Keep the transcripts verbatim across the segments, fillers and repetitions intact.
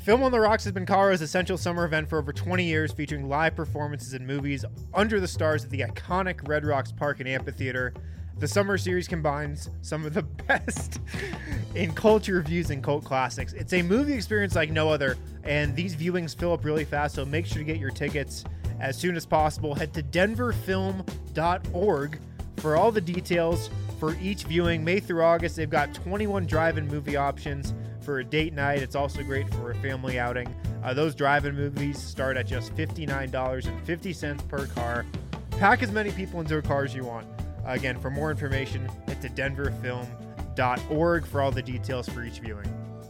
Film on the Rocks has been Colorado's essential summer event for over twenty years, featuring live performances and movies under the stars at the iconic Red Rocks Park and Amphitheater. The summer series combines some of the best in culture reviews and cult classics. It's a movie experience like no other, and these viewings fill up really fast, so make sure to get your tickets as soon as possible. Head to denver film dot org for all the details for each viewing. May through August, they've got twenty-one drive-in movie options for a date night. It's also great for a family outing. Uh, those drive-in movies start at just fifty-nine dollars and fifty cents per car. Pack as many people into a car as you want. Uh, again, for more information, head to denver film dot org for all the details for each viewing.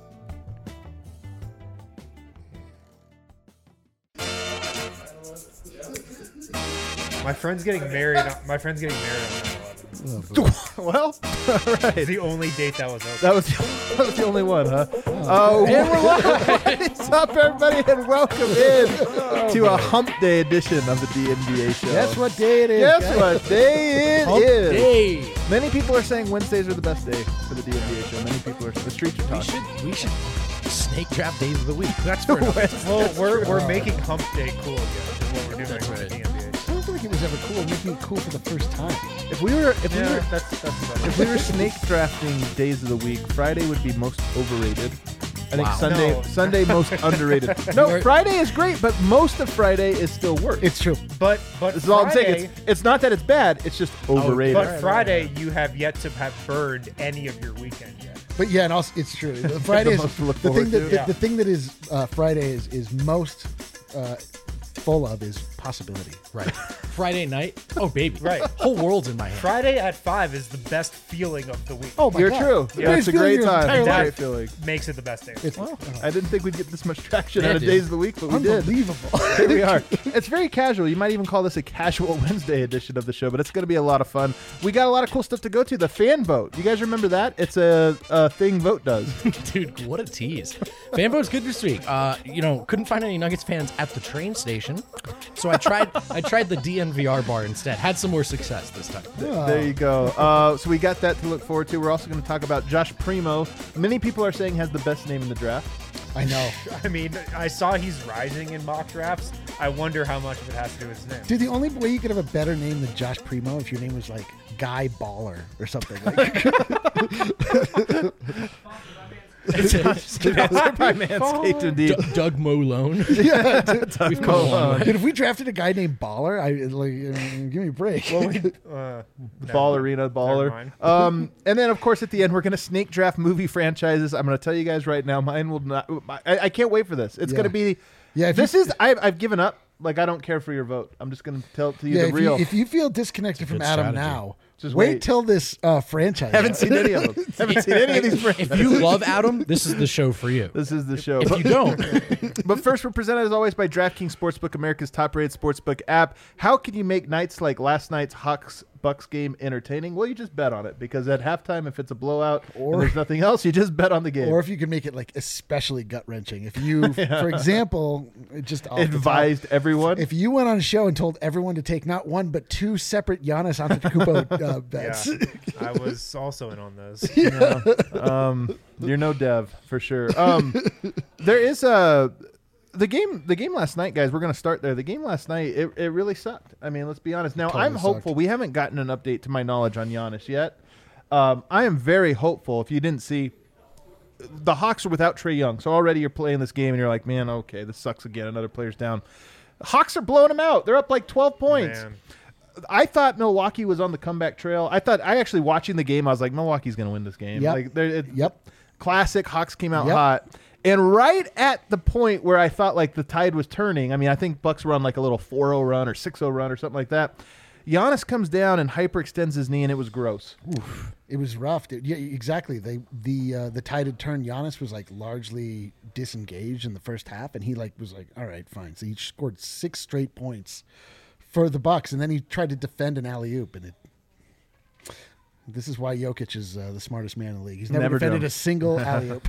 My friend's getting married. My friend's getting married on nine eleven. Well, all right. It's the only date that was open. That was the, that was the only one, huh? Oh, uh, and we're live. What's up, everybody, and welcome in oh, to man. a Hump Day edition of the D N V A show. Guess what day it is? Guess guys? what day it Hump is? Day. Many people are saying Wednesdays are the best day for the D N V A show. Many people are. The streets are talking. We should, we should snake draft days of the week. That's for Well, we're we're making Hump Day cool again. Is what we're doing That's with right. the D N V A. I don't feel like it was ever cool. Making it cool for the first time. If we were, if Yeah, we were, that's that's about if we were snake drafting days of the week, Friday would be most overrated. I think Wow. Sunday No. Sunday most underrated. No, Friday is great, but most of Friday is still worse. It's true. But but This is all I'm saying. Friday, It's, it's not that it's bad. It's just overrated. but Right, Friday right, you have yet to have burned any of your weekend yet. But yeah, and also it's true. The Friday is most to look the forward thing that to. the, Yeah. the thing that is uh, Friday is is most uh, full of is possibility. Right. Friday night. Oh, baby. Right. Whole world's in my hand. Friday at five is the best feeling of the week. Oh my You're God. true. The Yeah, best it's a feeling great of your time. entire It's a life. great feeling. Makes it the best day. It's Well, I didn't think we'd get this much traction Yeah, out of dude. days of the week, but we did. unbelievable. Here we are. It's very casual. You might even call this a casual Wednesday edition of the show, but it's going to be a lot of fun. We got a lot of cool stuff to go to. The fan vote. You guys remember that? It's a, a thing Vote does. Dude, what a tease. Fan vote's good this week. Uh, you know, couldn't find any Nuggets fans at the train station, so I tried I tried the D N V R bar instead. Had some more success this time. There you go. Uh, so we got that to look forward to. We're also going to talk about Josh Primo. Many people are saying has the best name in the draft. I know. I mean, I saw he's rising in mock drafts. I wonder how much of it has to do with his name. Dude, the only way you could have a better name than Josh Primo if your name was like Guy Baller or something. Like, Sponsored by Manscaped, indeed. D- Doug Malone. yeah, dude, We've come a long way. dude, if we drafted a guy named Baller, I like uh, give me a break. Well, we, uh, no. Ballerina Never baller. mind. Um, and then, of course, at the end, we're going to snake draft movie franchises. I'm going to tell you guys right now, mine will not. I, I can't wait for this. It's Yeah. going to be. Yeah, if this you- is. I've, I've given up. Like, I don't care for your vote. I'm just going to tell to you yeah, the if real. you, if you feel disconnected from good Adam strategy. now, Just wait, wait. till this uh, franchise. haven't seen any of them. haven't seen any of these franchises. If you love Adam, this is the show for you. This is the show. If you don't, But first, we're presented as always by DraftKings Sportsbook, America's top-rated sportsbook app. How can you make nights like last night's Hawks Bucks game entertaining? Well, you just bet on it, because at halftime, if it's a blowout Or- and there's nothing else, you just bet on the game. Or if you can make it like especially gut wrenching. If you, for example, just off the top, Advised everyone. if you went on a show and told everyone to take not one but two separate Giannis Antetokounmpo uh, bets, Yeah, I was also in on those. um, you're no dev for sure. Um, there is a the game. The game last night, guys. We're gonna start there. The game last night, it, it really sucked. I mean, let's be honest. Now, Totally I'm hopeful. sucked. We haven't gotten an update to my knowledge on Giannis yet. Um, I am very hopeful. If you didn't see, the Hawks are without Trae Young, so already you're playing this game and you're like, man, okay, this sucks again. Another player's down. Hawks are blowing them out. They're up like twelve points. Man. I thought Milwaukee was on the comeback trail. I thought I actually watching the game, I was like, Milwaukee's going to win this game. Yep. Like, they're- it, Yep. Classic. Hawks came out Yep. hot. And right at the point where I thought like the tide was turning, I mean, I think Bucks were on like a little four oh run or six oh run or something like that. Giannis comes down and hyperextends his knee, and it was gross. Oof, it was rough, dude. Yeah, exactly. They the uh, the tide had turned. Giannis was like largely disengaged in the first half, and he like was like, all right, fine. So he scored six straight points for the Bucks, and then he tried to defend an alley oop, and it This is why Jokic is uh, the smartest man in the league. He's never, Never defended done. a single alley-oop.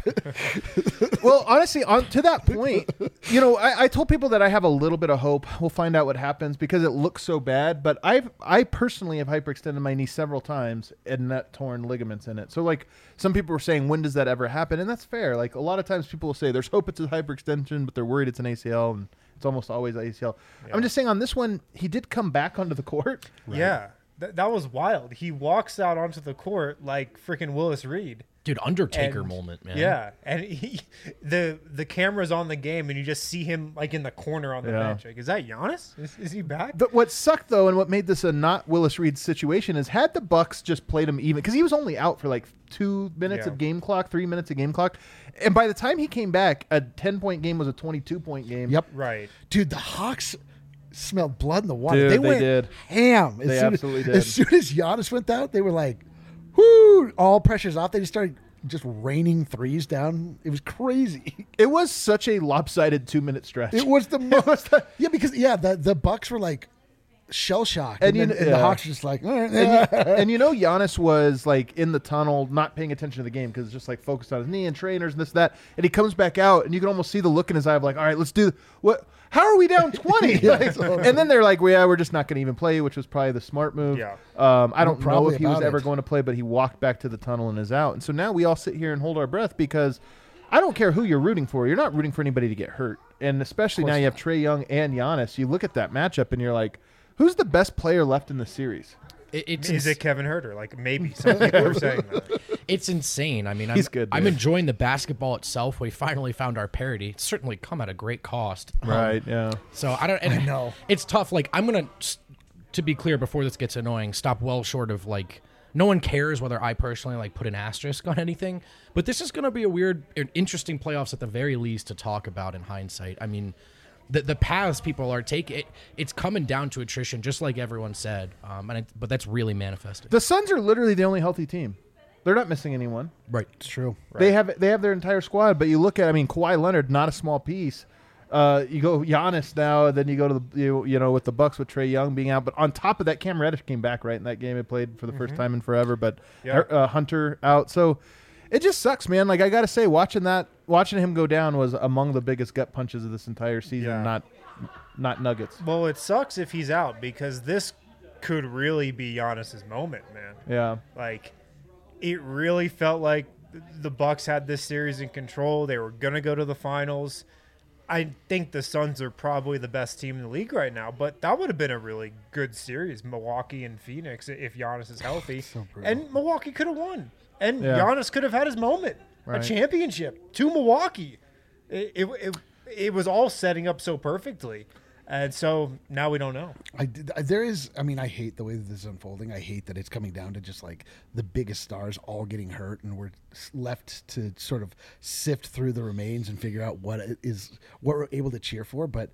Well, honestly, on to that point, you know, I, I told people that I have a little bit of hope. We'll find out what happens because it looks so bad. But I've I personally have hyperextended my knee several times and net torn ligaments in it. So like some people were saying, when does that ever happen? And that's fair. Like a lot of times people will say there's hope it's a hyperextension, but they're worried it's an A C L, and it's almost always A C L. Yeah. I'm just saying on this one, he did come back onto the court. Yeah. Th- that was wild. He walks out onto the court like freaking Willis Reed. Dude, Undertaker And- moment, man. Yeah, and he, the the camera's on the game, and you just see him like in the corner on the Yeah. bench. Like, is that Giannis? Is, is he back? But what sucked though, and what made this a not Willis Reed situation, is had the Bucks just played him even, because he was only out for like two minutes Yeah. of game clock, three minutes of game clock, and by the time he came back, a ten point game was a twenty-two point game. Yep. Right. Dude, the Hawks smelled blood in the water. Dude, they they went did. ham. As They soon absolutely as, did. As soon as Giannis went out, they were like, whoo, all pressure's off. They just started just raining threes down. It was crazy. It was such a lopsided two minute stretch. It was the most. Yeah, because, yeah, the, the Bucks were like shell shocked. And And, you then, kn- and the yeah. Hawks were just like, all right. and, you, and you know Giannis was like in the tunnel, not paying attention to the game because just like focused on his knee and trainers and this that. And he comes back out, and you can almost see the look in his eye of like, all right, let's do what? How are we down twenty? Yeah, Like, totally. and then they're like, well, yeah, we're just not going to even play, which was probably the smart move. Yeah. Um, I don't know Probably if he was about ever it. going to play, but he walked back to the tunnel and is out. And so now we all sit here and hold our breath because I don't care who you're rooting for. You're not rooting for anybody to get hurt. And especially now you have Trae Young and Giannis. You look at that matchup and you're like, who's the best player left in the series? It, it's Is ins- it Kevin Herter? Like maybe some people are saying that. It's insane. I mean, I'm, He's good, I'm dude. enjoying the basketball itself. We finally found our parity. It's certainly come at a great cost. Um, Right, yeah. So I don't. And I know. it's tough. Like I'm gonna, s- to be clear, before this gets annoying, stop well short of like. No one cares whether I personally like put an asterisk on anything, but this is going to be a weird, an interesting playoffs at the very least to talk about in hindsight. I mean, the the paths people are taking, it, it's coming down to attrition, just like everyone said. Um, and it, but that's really manifested. The Suns are literally the only healthy team. They're not missing anyone. Right. It's true. They have they have their entire squad, but you look at, I mean, Kawhi Leonard, not a small piece. Uh, you go Giannis now, then you go to the you, you know with the Bucks with Trae Young being out, but on top of that, Cam Reddish came back right in that game. He played for the first time in forever, but Yeah. uh, Hunter out, so it just sucks, man. Like I gotta say, watching that, watching him go down was among the biggest gut punches of this entire season. Yeah. Not not Nuggets. Well, it sucks if he's out because this could really be Giannis's moment, man. Yeah, Like, it really felt like the Bucks had this series in control. They were gonna go to the finals. I think the Suns are probably the best team in the league right now, but that would have been a really good series, Milwaukee and Phoenix, if Giannis is healthy. So brutal. And Milwaukee could have won. And Yeah. Giannis could have had his moment, Right. a championship to Milwaukee. It, it, it, it was all setting up so perfectly. And so now we don't know. I did, I- there is. I mean, I hate the way that this is unfolding. I hate that it's coming down to just like the biggest stars all getting hurt, and we're s- left to sort of sift through the remains and figure out what it is what we're able to cheer for. But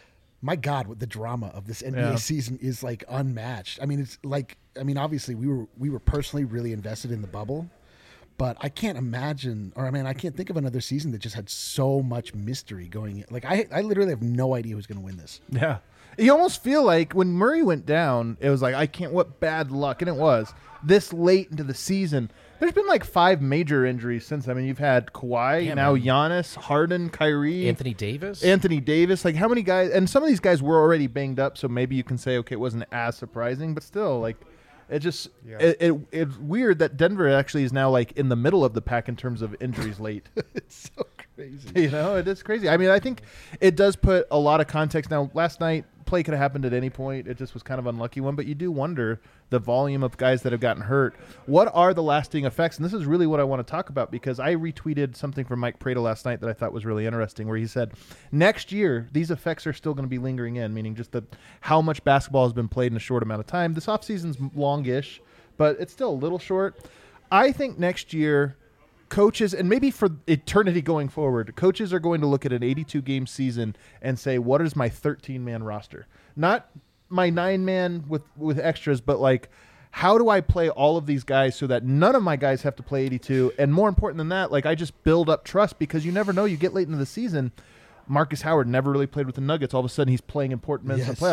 my God, what the drama of this N B A Yeah. season is like unmatched. I mean, it's like I mean, obviously we were we were personally really invested in the bubble. But I can't imagine, or I mean, I can't think of another season that just had so much mystery going in. Like, I, I literally have no idea who's going to win this. yeah. You almost feel like when Murray went down, it was like, I can't, what bad luck. And it was this late into the season. There's been like five major injuries since. I mean, you've had Kawhi, Yeah, now man. Giannis, Harden, Kyrie, Anthony Davis. Anthony Davis. Like, how many guys? And some of these guys were already banged up, so maybe you can say, okay, it wasn't as surprising, but still, like, it just Yeah. it, it it's weird that Denver actually is now like in the middle of the pack in terms of injuries late. It's so crazy. You know, it is crazy. I mean, I think it does put a lot of context. Now, last night, play could have happened at any point. It just was kind of unlucky one, but you do wonder the volume of guys that have gotten hurt. What are the lasting effects? And this is really what I want to talk about because I retweeted something from Mike Prado last night that I thought was really interesting where he said, next year, these effects are still going to be lingering in, meaning just the how much basketball has been played in a short amount of time. This offseason's longish, but it's still a little short. I think next year coaches, and maybe for eternity going forward, coaches are going to look at an eighty-two game season and say, what is my thirteen man roster? Not my nine man with, with extras, but like, how do I play all of these guys so that none of my guys have to play eighty-two? And more important than that, like I just build up trust because you never know. You get late into the season. Marcus Howard never really played with the Nuggets. All of a sudden, he's playing important minutes in the Yes. playoffs.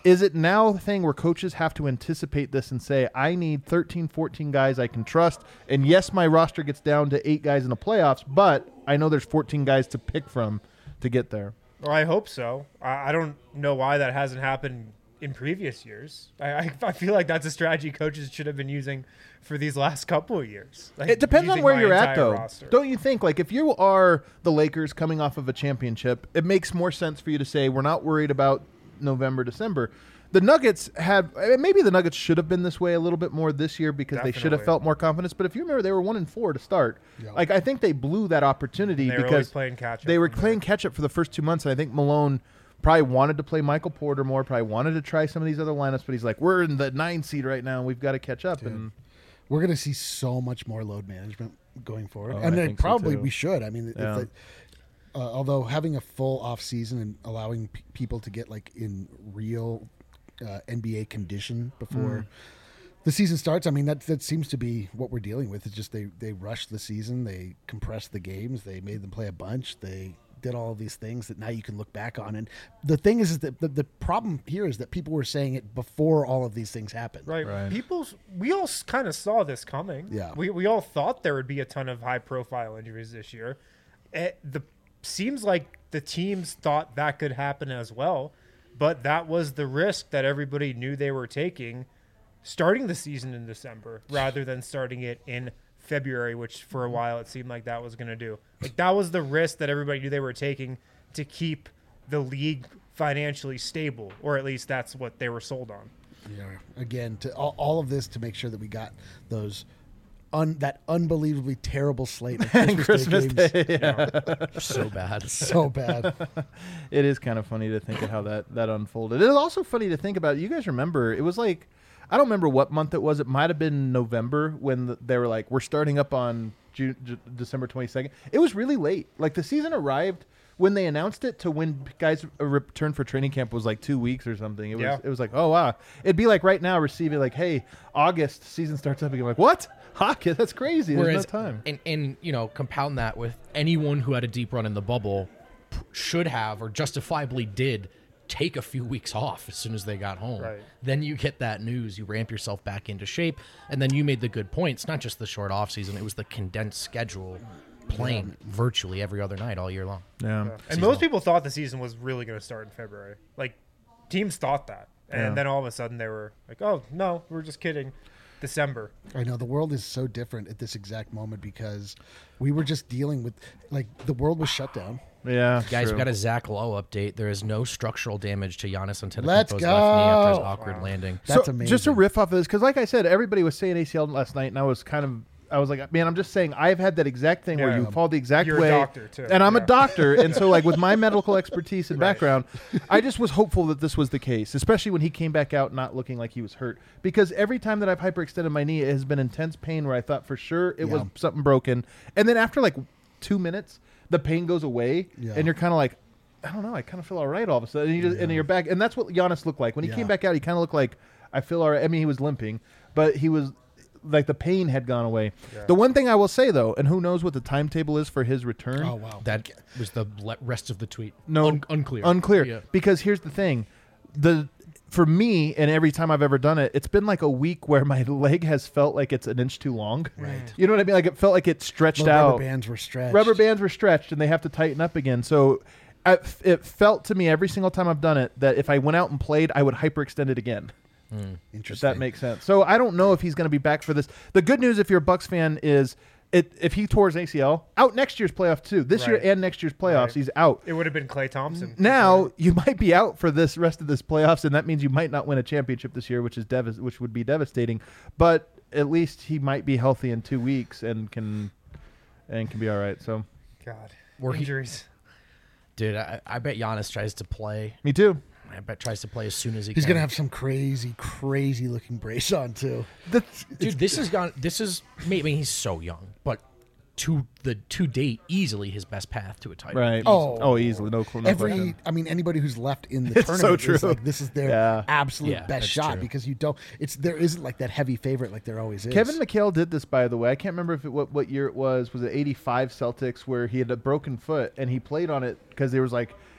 is it now a thing where coaches have to anticipate this and say, I need thirteen, fourteen guys I can trust, and yes, my roster gets down to eight guys in the playoffs, but I know there's fourteen guys to pick from to get there. Well, I hope so. I, I don't know why that hasn't happened in previous years. I, I, I feel like that's a strategy coaches should have been using for these last couple of years. Like, It depends on using where my you're at, entire though. roster. Don't you think? Like, if you are the Lakers coming off of a championship, it makes more sense for you to say, we're not worried about November, December. The Nuggets had, maybe the Nuggets should have been this way a little bit more this year because they should have Definitely. felt more confidence. But if you remember, they were one and four to start. Yeah. Like, I think they blew that opportunity They were always because playing catch-up they were from playing there. catch up for the first two months. And I think Malone probably wanted to play Michael Porter more, probably wanted to try some of these other lineups. But he's like, we're in the nine seed right now, and we've got to catch up. And We're going to see so much more load management going forward, Oh, and I then think so, probably too. we should. I mean, if Yeah. the, uh, although having a full off season and allowing p- people to get like in real uh, N B A condition before Mm. the season starts, I mean that that seems to be what we're dealing with. It's just they they rushed the season, they compressed the games, they made them play a bunch, they did all of these things that now you can look back on. And the thing is, is that the, the problem here is that people were saying it before all of these things happened. Right. Right. People, we all kind of saw this coming. Yeah. We, we all thought there would be a ton of high profile injuries this year. It, the seems like the teams thought that could happen as well, but that was the risk that everybody knew they were taking starting the season in December rather than starting it in February, which for a while it seemed like that was going to do. Like that was the risk that everybody knew they were taking to keep the league financially stable, or at least that's what they were sold on. Yeah. Again, to all, all of this to make sure that we got those un, that unbelievably terrible slate of And Christmas, Christmas Day games. Day. Yeah. So bad. So bad. It is kind of funny to think of how that, that unfolded. It is also funny to think about. You guys remember, it was like, I don't remember what month it was. It might have been November when the, they were like, we're starting up on June, J- December twenty-second. It was really late. Like the season arrived when they announced it to when guys returned for training camp was like two weeks or something. It was Yeah. it was like, oh, wow. It'd be like right now receiving like, hey, August, season starts up again. Like, what? Hockey? That's crazy. There's Whereas, no time. and, and you know, compound that with anyone who had a deep run in the bubble p- should have or justifiably did take a few weeks off as soon as they got home. Right. Then you get that news, you ramp yourself back into shape, and then you made the good point. It's not just the short off season; it was the condensed schedule, playing virtually every other night all year long. Yeah. And Seasonal. most people thought the season was really going to start in February. Like teams thought that, and Yeah. then all of a sudden they were like, "Oh no, we we're just kidding." December. I know the world is so different at this exact moment because we were just dealing with like the world was shut down. Yeah. Guys, true. we got a Zach Lowe update. There is no structural damage to Giannis Antetokounmpo's Let's left knee after his go. awkward Wow. landing. That's so amazing. Just to riff off of this, because like I said, everybody was saying A C L last night, and I was kind of, I was like, man, I'm just saying, I've had that exact thing where Yeah. you fall the exact You're a way. doctor, too. And I'm Yeah. a doctor, and so like with my medical expertise and Right. background, I just was hopeful that this was the case, especially when he came back out not looking like he was hurt. Because every time that I've hyperextended my knee, it has been intense pain where I thought for sure it was Yeah. something broken, and then after like two minutes, the pain goes away, Yeah. and you're kind of like, I don't know, I kind of feel all right all of a sudden. And, you just, and you're back. And that's what Giannis looked like. When he Yeah. came back out, he kind of looked like, I feel all right. I mean, he was limping, but he was like the pain had gone away. Yeah. The one thing I will say, though, and who knows what the timetable is for his return. Oh wow. That was the le- rest of the tweet. No, Un- unclear. Unclear. Yeah. Because here's the thing. The for me, and every time I've ever done it, it's been like a week where my leg has felt like it's an inch too long. Right. You know what I mean? Like it felt like it stretched The out. rubber bands were stretched. Rubber bands were stretched and they have to tighten up again. So I, it felt to me every single time I've done it that if I went out and played, I would hyperextend it again. If Interesting. that makes sense. So I don't know if he's going to be back for this. The good news, if you're a Bucks fan, is it if he tore his A C L, out next year's playoff too. This Right. year and next year's playoffs, Right. he's out. It would have been Klay Thompson. Now you might be out for this rest of this playoffs, and that means you might not win a championship this year, which is dev- which would be devastating. But at least he might be healthy in two weeks and can and can be all right. So God, Were he- injuries. Dude, I, I bet Giannis tries to play. me too. I bet tries to play as soon as he He's can. gonna have some crazy, crazy looking brace on too. The, Dude, this has gone. This is. I mean, he's so young, but to the to date, easily his best path to a title. right. Oh. oh, easily. No, no Every, question. I mean, anybody who's left in the It's so tournament is true. like this is their Yeah. absolute Yeah, best that's shot true. because you don't. It's there isn't like that heavy favorite like there always is. Kevin McHale did this, by the way. I can't remember if it, what what year it was. Was it eighty-five Celtics where he had a broken foot and he played on it because there was like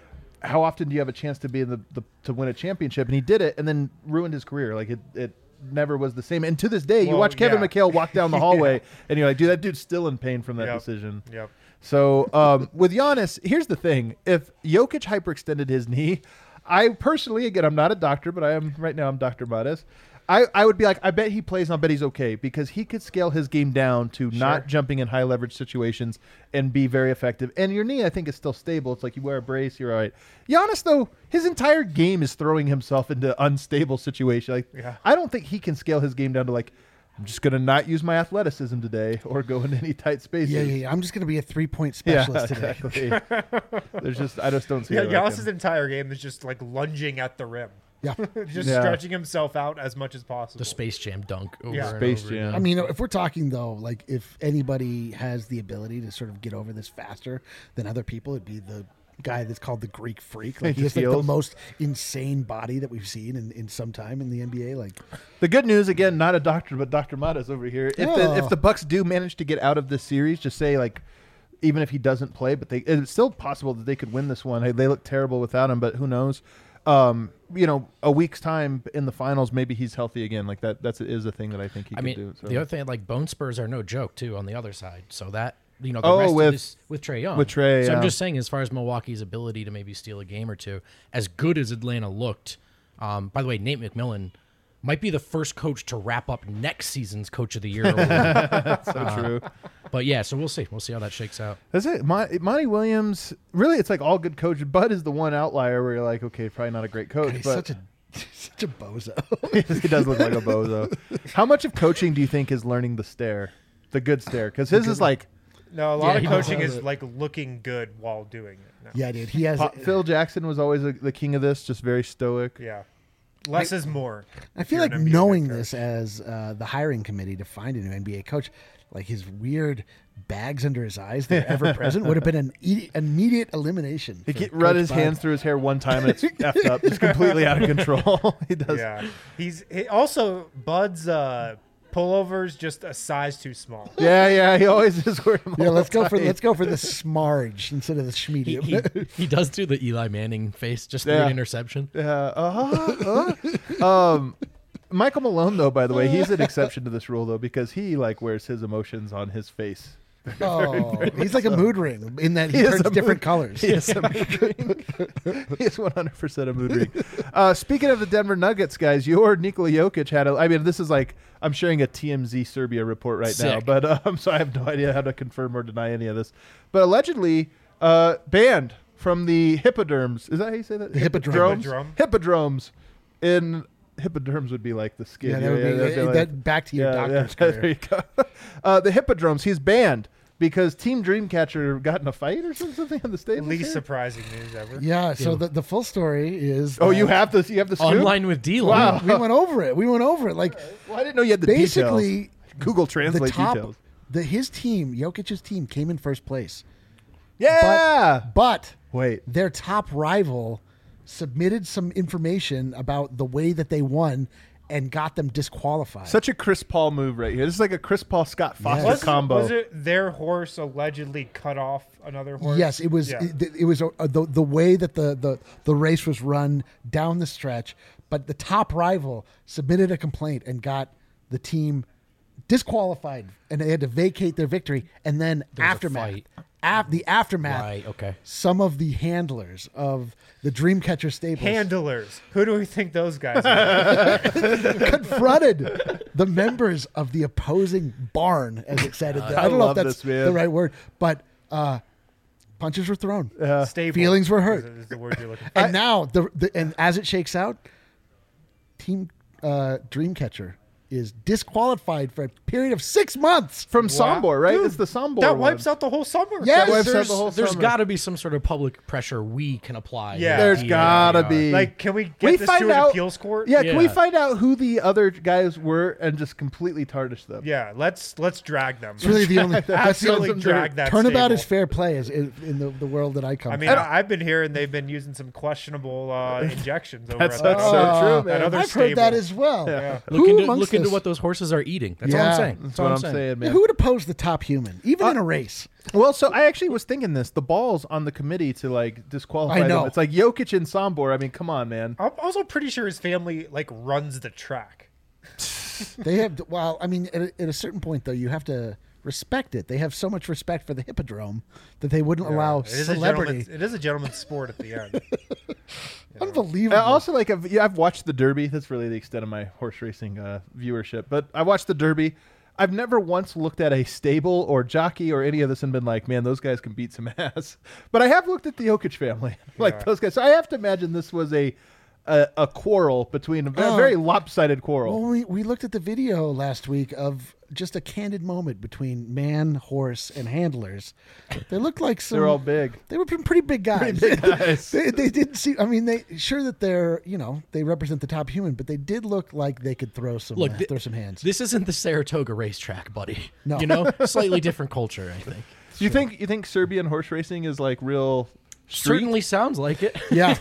how often do you have a chance to be in the, the to win a championship? And he did it, and then ruined his career. Like it, it never was the same. And to this day, you Well, watch Kevin yeah. McHale walk down the hallway, Yeah. and you're like, dude, that dude's still in pain from that Yep. decision. Yep. So um, with Giannis, here's the thing: if Jokic hyperextended his knee, I personally, again, I'm not a doctor, but I am right now. I'm Doctor Madas. I, I would be like, I bet he plays, and I bet he's okay because he could scale his game down to not jumping in high leverage situations and be very effective. And your knee, I think, is still stable. It's like you wear a brace, you're all right. Giannis, though, his entire game is throwing himself into unstable situations. Like, Yeah. I don't think he can scale his game down to like, I'm just going to not use my athleticism today or go into any tight spaces. Yeah, yeah, yeah. I'm just going to be a three point Yeah, specialist today. exactly. There's just, I just don't see Yeah, it. like Giannis' him. entire game is just like lunging at the rim, Yeah. just Yeah. stretching himself out as much as possible. The Space Jam dunk over Yeah. and Space over Jam. again. I mean, if we're talking though, like if anybody has the ability to sort of get over this faster than other people, it'd be the guy that's called the Greek Freak. Like he has like the Heels. most insane body that we've seen in, in some time in the N B A. Like The good news, again, not a doctor, but Doctor Madas over here. If the Oh. if the Bucks do manage to get out of this series, just say like, even if he doesn't play, but they it's still possible that they could win this one. Hey, they look terrible without him, but who knows? Um, you know, a week's time in the finals, maybe he's healthy again. Like that, that's is a thing that I think he I could mean, do. So. the other thing, like bone spurs are no joke too on the other side. So that you know, the Oh, rest with- of this with Trae Young, with Trae, So yeah. I'm just saying, as far as Milwaukee's ability to maybe steal a game or two, as good as Atlanta looked. Um, by the way, Nate McMillan might be the first coach to wrap up next season's Coach of the Year award. so true. But yeah, so we'll see. We'll see how that shakes out. That's it. Mon- Monty Williams, really, it's like all good coaches. Bud is the one outlier where you're like, okay, probably not a great coach, he's but such a such a bozo. he does look like a bozo. How much of coaching do you think is learning the stare, the good stare? Because his is like No, a lot Yeah, of he knows coaching how is to- like looking good while doing it. No. Yeah, dude. He has. Pa- Phil Jackson was always a, the king of this, just very stoic. Yeah. Less is more. I if feel you're like an N B A knowing head coach. this as uh, the hiring committee to find a new N B A coach, like his weird bags under his eyes that are ever present, would have been an e- immediate elimination. He for get, run Coach his Bud. hands through his hair one time and it's effed up. It's completely out of control. he does. Yeah. He's he, also Bud's uh, pullovers just a size too small. Yeah, yeah. He always is wearing them Yeah, all let's the go for time. let's go for the smarge instead of the He, schmedium. he, he does do the Eli Manning face just through Yeah. an interception. Yeah. Uh, uh, um, Michael Malone, though, by the way, he's an exception to this rule, though, because he like wears his emotions on his face. Oh, he's like a mood ring in that he, He is turns a different mood- colors. He is a mood ring. He is one hundred percent a mood ring. Uh, speaking of the Denver Nuggets, guys, your Nikola Jokic had a, I mean, this is like, I'm sharing a T M Z Serbia report right now, Sick. but um, so I have no idea how to confirm or deny any of this. But allegedly, uh, banned from the Hippodromes. Is that how you say that? The Hippodrome. Hippodrome. Hippodromes. In Hippodromes would be like the skin. Yeah, that would be that'd that, like- back to your yeah, doctor's yeah, career. there you go. Uh, the Hippodromes, he's banned because Team Dreamcatcher got in a fight or something on the stage. Least surprising news ever. Yeah, so the, the full story is Oh, that you have this. You have the scoop? Online with D. Wow. we went over it. We went over it. Like Well, I didn't know you had the basically details. Google the Translate top details. the his team, Jokic's team, came in first place. Yeah. But Wait. their top rival submitted some information about the way that they won and got them disqualified. Such a Chris Paul move right here. This is like a Chris Paul Scott Foster Was, combo. was it their horse allegedly cut off another horse? Yes, it was. Yeah. It, it was uh, the the way that the, the the race was run down the stretch. But the top rival submitted a complaint and got the team disqualified, and they had to vacate their victory. And then There was a aftermath, fight. af- the aftermath, Right, okay. some of the handlers of the Dreamcatcher stables Handlers. Who do we think those guys are? confronted the members of the opposing barn, as it said. I don't know love if that's this, man. the right word, but uh, punches were thrown. Stable. Feelings were hurt. Is, is the word you're looking for. And now, the, the and as it shakes out, Team uh, Dreamcatcher is disqualified for a period of six months. From Wow. Sombor, right? Dude, it's the Sombor That one. wipes out the whole summer. Yes. That wipes out There's, the whole there's summer. got to be some sort of public pressure we can apply. Yeah. with There's the gotta N B A. be. Like, can we get We this find to an out- appeals court? Yeah, can we Yeah. find out who the other guys were and just completely tarnish them? Yeah, let's let's drag them. It's really the only that's the Absolutely only drag that turnabout stable. is fair play is in, in the, the world that I come I mean, from. I, I've been hearing they've been using some questionable uh, injections over That's at that so other, true, man. that other I've stable. heard that as well. Yeah. Who Look into, amongst look into this. what those horses are eating. That's all Yeah. I'm saying. That's That's all what I'm I'm saying. saying, Yeah, man. who would oppose the top human, even Uh, in a race? Well, so I actually was thinking this. The ball's on the committee to like disqualify I know. them. It's like Jokic and Sombor. I mean, come on, man. I'm also pretty sure his family like runs the track. They have, well, I mean, at a, at a certain point, though, you have to respect it. They have so much respect for the hippodrome that they wouldn't allow It is a celebrity. gentleman's- It is a gentleman's sport at the end. Unbelievable. I also, like, I've, yeah, I've watched the Derby. That's really the extent of my horse racing uh, viewership. But I watched the Derby. I've never once looked at a stable or jockey or any of this and been like, man, those guys can beat some ass. But I have looked at the Jokic family, like Yeah. those guys. So I have to imagine this was a a, a quarrel between a ve- Oh. very lopsided quarrel. Well, we, we looked at the video last week of just a candid moment between man, horse, and handlers. They looked like some. They're all big. They were pretty big guys. Pretty big guys. they, they didn't see. I mean, they sure that they're you know they represent the top human, but they did look like they could throw some Look, uh, thi- throw some hands. This isn't the Saratoga racetrack, buddy. No. You know, slightly different culture, I think. You think you think Serbian horse racing is like real? Street? Certainly sounds like it. Yeah,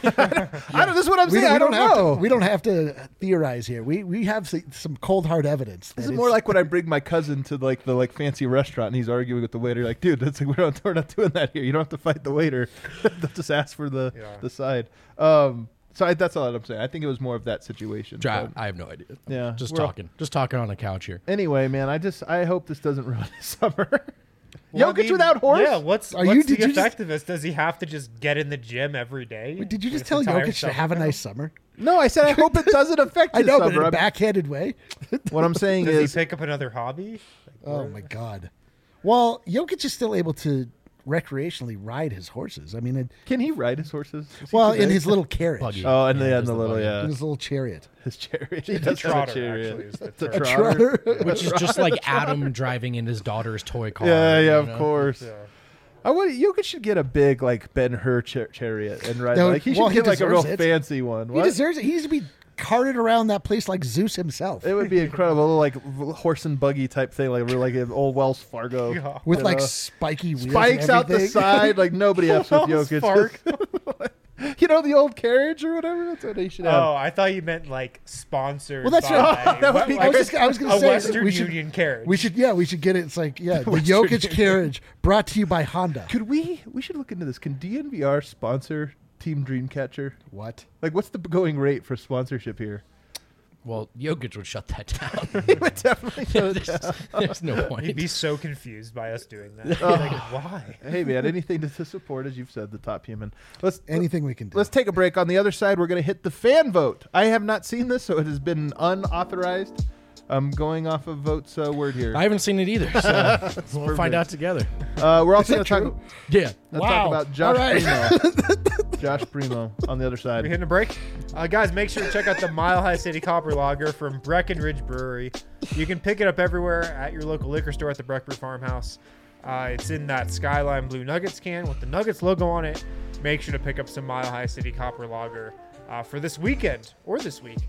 I don't. This is what I'm we, saying. we I don't, have know. to. We don't have to theorize here. We we have s- some cold hard evidence. that This is it's- more like when I bring my cousin to like the like fancy restaurant and he's arguing with the waiter. Like, dude, that's like we're not, we're not doing that here. You don't have to fight the waiter. They'll just ask for the Yeah. the side. Um, so I, that's all I'm saying. I think it was more of that situation. I, but- I have no idea. Yeah, Just we're all- talking. Just talking on the couch here. Anyway, man, I just I hope this doesn't ruin his summer. Well, I Jokic mean, without horse. Yeah, what's, Are what's you- the did you just- effectiveness? Does he have to just get in the gym every day? Wait, Did you for just this tell entire Jokic to summer have a now? nice summer? No, I said I hope it doesn't affect I his know, but summer. in a I'm- backhanded way. what I'm saying Does is, he pick up another hobby? Like, Oh where- my god. Well, Jokic is still able to recreationally ride his horses. I mean, it, can he ride his horses? Is he well, too in big? his little carriage, Buggy. Oh, and Yeah, the, just and the the little buggy. yeah, in his little chariot. his chariot. He The does have a trotter, chariot. actually, is the It's a trotter. trotter. Which is just like Adam driving in his daughter's toy car. Yeah, yeah, you of know? course. Yeah. I would. Jokic should get a big like Ben Hur char- chariot and ride. No, like he should well, he get like a real deserves it. fancy one. He What? deserves it. He needs to be carted around that place like Zeus himself, It would be incredible, a little, like v- horse and buggy type thing, like like an old Wells Fargo. Yeah. with you like know. spiky wheels. spikes and out the everything. side. Like nobody else with Wells Jokic. Fargo. You know the old carriage or whatever. That's what they should have. Oh, I thought you meant like sponsored. Well, that's by, right. That would be I was great. just, I was going to a say Western we should, Union carriage. we should, yeah, we should get it. It's like, yeah, the Western Jokic Union. carriage brought to you by Honda. Could we? We should look into this. Can D N V R sponsor Team Dreamcatcher? What? Like, what's the going rate for sponsorship here? Well, Jokic would shut that down. He would definitely. go there's, down. there's no point. He'd be so confused by us doing that. Like, why? Hey man, anything to, to support, as you've said, the top human. Let's Anything we can do. Let's take a break. On the other side, we're going to hit the fan vote. I have not seen this, so it has been unauthorized. I'm going off of votes uh, word here. I haven't seen it either, so we'll perfect. find out together. Uh, we're also going that to talk, true? Yeah. let's Wow. talk about Josh All right. Primo. Josh Primo on the other Are we side. hitting a break? Uh, guys, make sure to check out the Mile High City Copper Lager from Breckenridge Brewery. You can pick it up everywhere at your local liquor store at the Breckbrew Farmhouse. Uh, it's in that Skyline Blue Nuggets can with the Nuggets logo on it. Make sure to pick up some Mile High City Copper Lager uh, for this weekend or this week.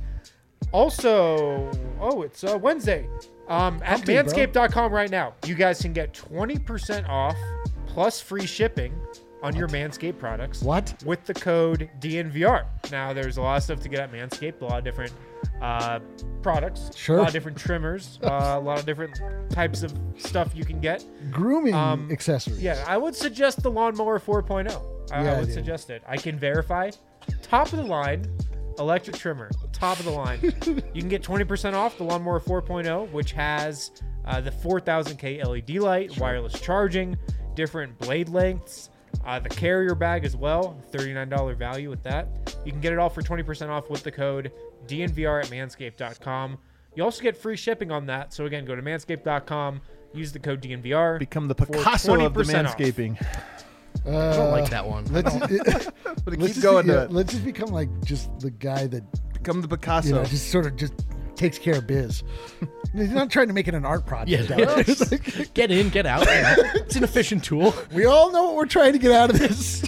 Also, oh, it's uh, Wednesday. Um, at Humpty, bro. manscaped dot com right now, you guys can get twenty percent off plus free shipping on your Manscaped products What? with the code D N V R. Now, there's a lot of stuff to get at Manscaped, a lot of different uh, products, Sure. a lot of different trimmers, uh, a lot of different types of stuff you can get. Grooming Um, accessories. Yeah, I would suggest the Lawnmower four point oh. I, Yeah, I would dude. suggest it. I can verify. Top of the line, electric trimmer. Top of the line. You can get twenty percent off the Lawnmower four point oh, which has uh, the four thousand K L E D light, wireless charging, different blade lengths, uh, the carrier bag as well, thirty-nine dollars value with that. You can get it all for twenty percent off with the code D N V R at manscaped dot com. You also get free shipping on that. So again, go to manscaped dot com, use the code D N V R. Become the for Picasso of the twenty percent off. manscaping. I don't like that one. Let's, But let's keep just going be, to yeah, it. let's just become like just the guy that Become the Picasso. you know just sort of just takes care of biz. He's not trying to make it an art project. Yeah, out there. yeah. It's like, Get in, get out. you know. It's an efficient tool. we all know what we're trying to get out of this.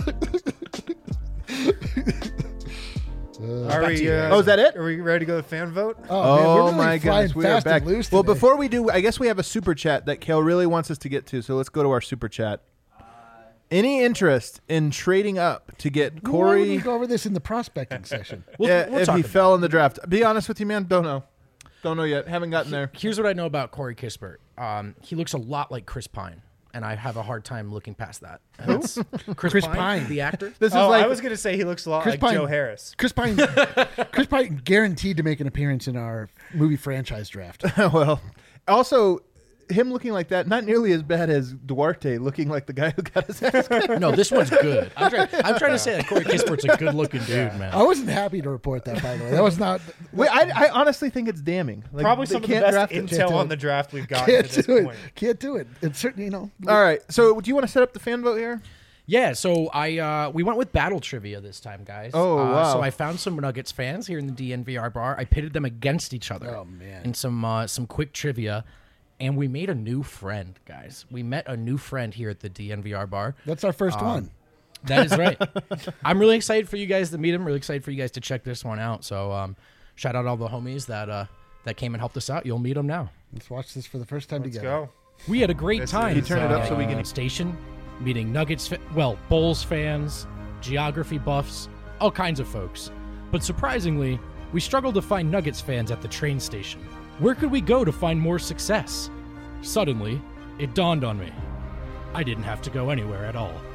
Are back we, to you, uh, Oh, is that it? Are we ready to go to the fan vote? Oh, man, we're Oh really my flying gosh, we are fast back. and loose Well, today. before we do, I guess we have a super chat that Kale really wants us to get to. So let's go to our super chat. Any interest in trading up to get Why Corey? would we go over this in the prospecting session? We'll, yeah, we'll if talk he about fell in the draft. Be honest with you, man. Don't know. Don't know yet. Haven't gotten there. Here's what I know about Corey Kispert. Um, he looks a lot like Chris Pine, and I have a hard time looking past that. That's Chris, Chris Pine, Pine. the actor. This is Oh, like I was gonna say he looks a lot Chris like Pine. Joe Harris. Chris Pine, Chris Pine guaranteed to make an appearance in our movie franchise draft. well, also him looking like that, not nearly as bad as Duarte looking like the guy who got his ass kicked. No, this one's good. I'm trying, I'm trying to say that Corey Kispert's a good-looking dude, man. I wasn't happy to report that, by the way. That was not. Wait, I, I honestly think it's damning. Like, Probably they some of the can't best draft him. intel do on it. the draft we've got Can't to this do it. point. Can't do it. It's certainly, you know. All right. So, do you want to set up the fan vote here? Yeah, so I uh, we went with battle trivia this time, guys. Oh, uh, wow. So I found some Nuggets fans here in the D N V R bar. I pitted them against each other. Oh, man. In some uh, some quick trivia, and we made a new friend, guys. We met a new friend here at the D N V R bar. That's our first one. That is right. I'm really excited for you guys to meet him. Really excited for you guys to check this one out. So um, shout out all the homies that uh, that came and helped us out. You'll meet them now. Let's watch this for the first time Let's together. go. We had a great This time. is, Turn it up so we can- uh, station, meeting Nuggets, fa- well, Bulls fans, geography buffs, all kinds of folks. But surprisingly, we struggled to find Nuggets fans at the train station. Where could we go to find more success? Suddenly, it dawned on me. I didn't have to go anywhere at all.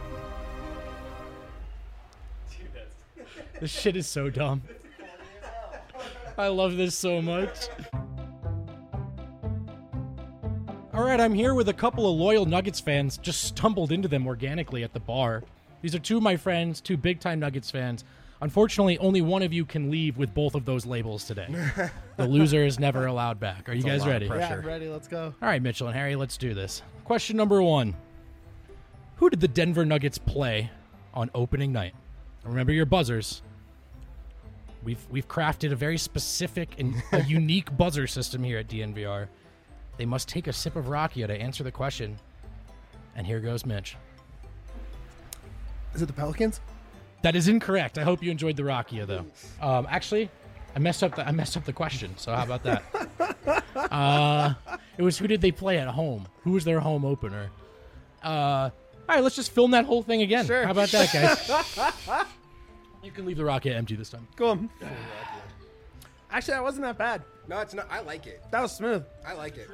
This shit is so dumb. I love this so much. All right, I'm here with a couple of loyal Nuggets fans. Just stumbled into them organically at the bar. These are two of my friends, two big-time Nuggets fans. Unfortunately, only one of you can leave with both of those labels today. The loser is never allowed back. Are you guys ready? Yeah, ready. Let's go. All right, Mitchell and Harry, let's do this. Question number one. Who did the Denver Nuggets play on opening night? Remember your buzzers. We've we've crafted a very specific and a unique buzzer system here at D N V R. They must take a sip of Rakia to answer the question. And here goes Mitch. Is it the Pelicans? That is incorrect. I hope you enjoyed the Rakia, though. Um, actually, I messed up the I messed up the question. So how about that? uh, it was who did they play at home? Who was their home opener? Uh, all right, let's just film that whole thing again. Sure. How about that, guys? You can leave the Rakia empty this time. Go on. Actually, that wasn't that bad. No, it's not. I like it. That was smooth. I like it.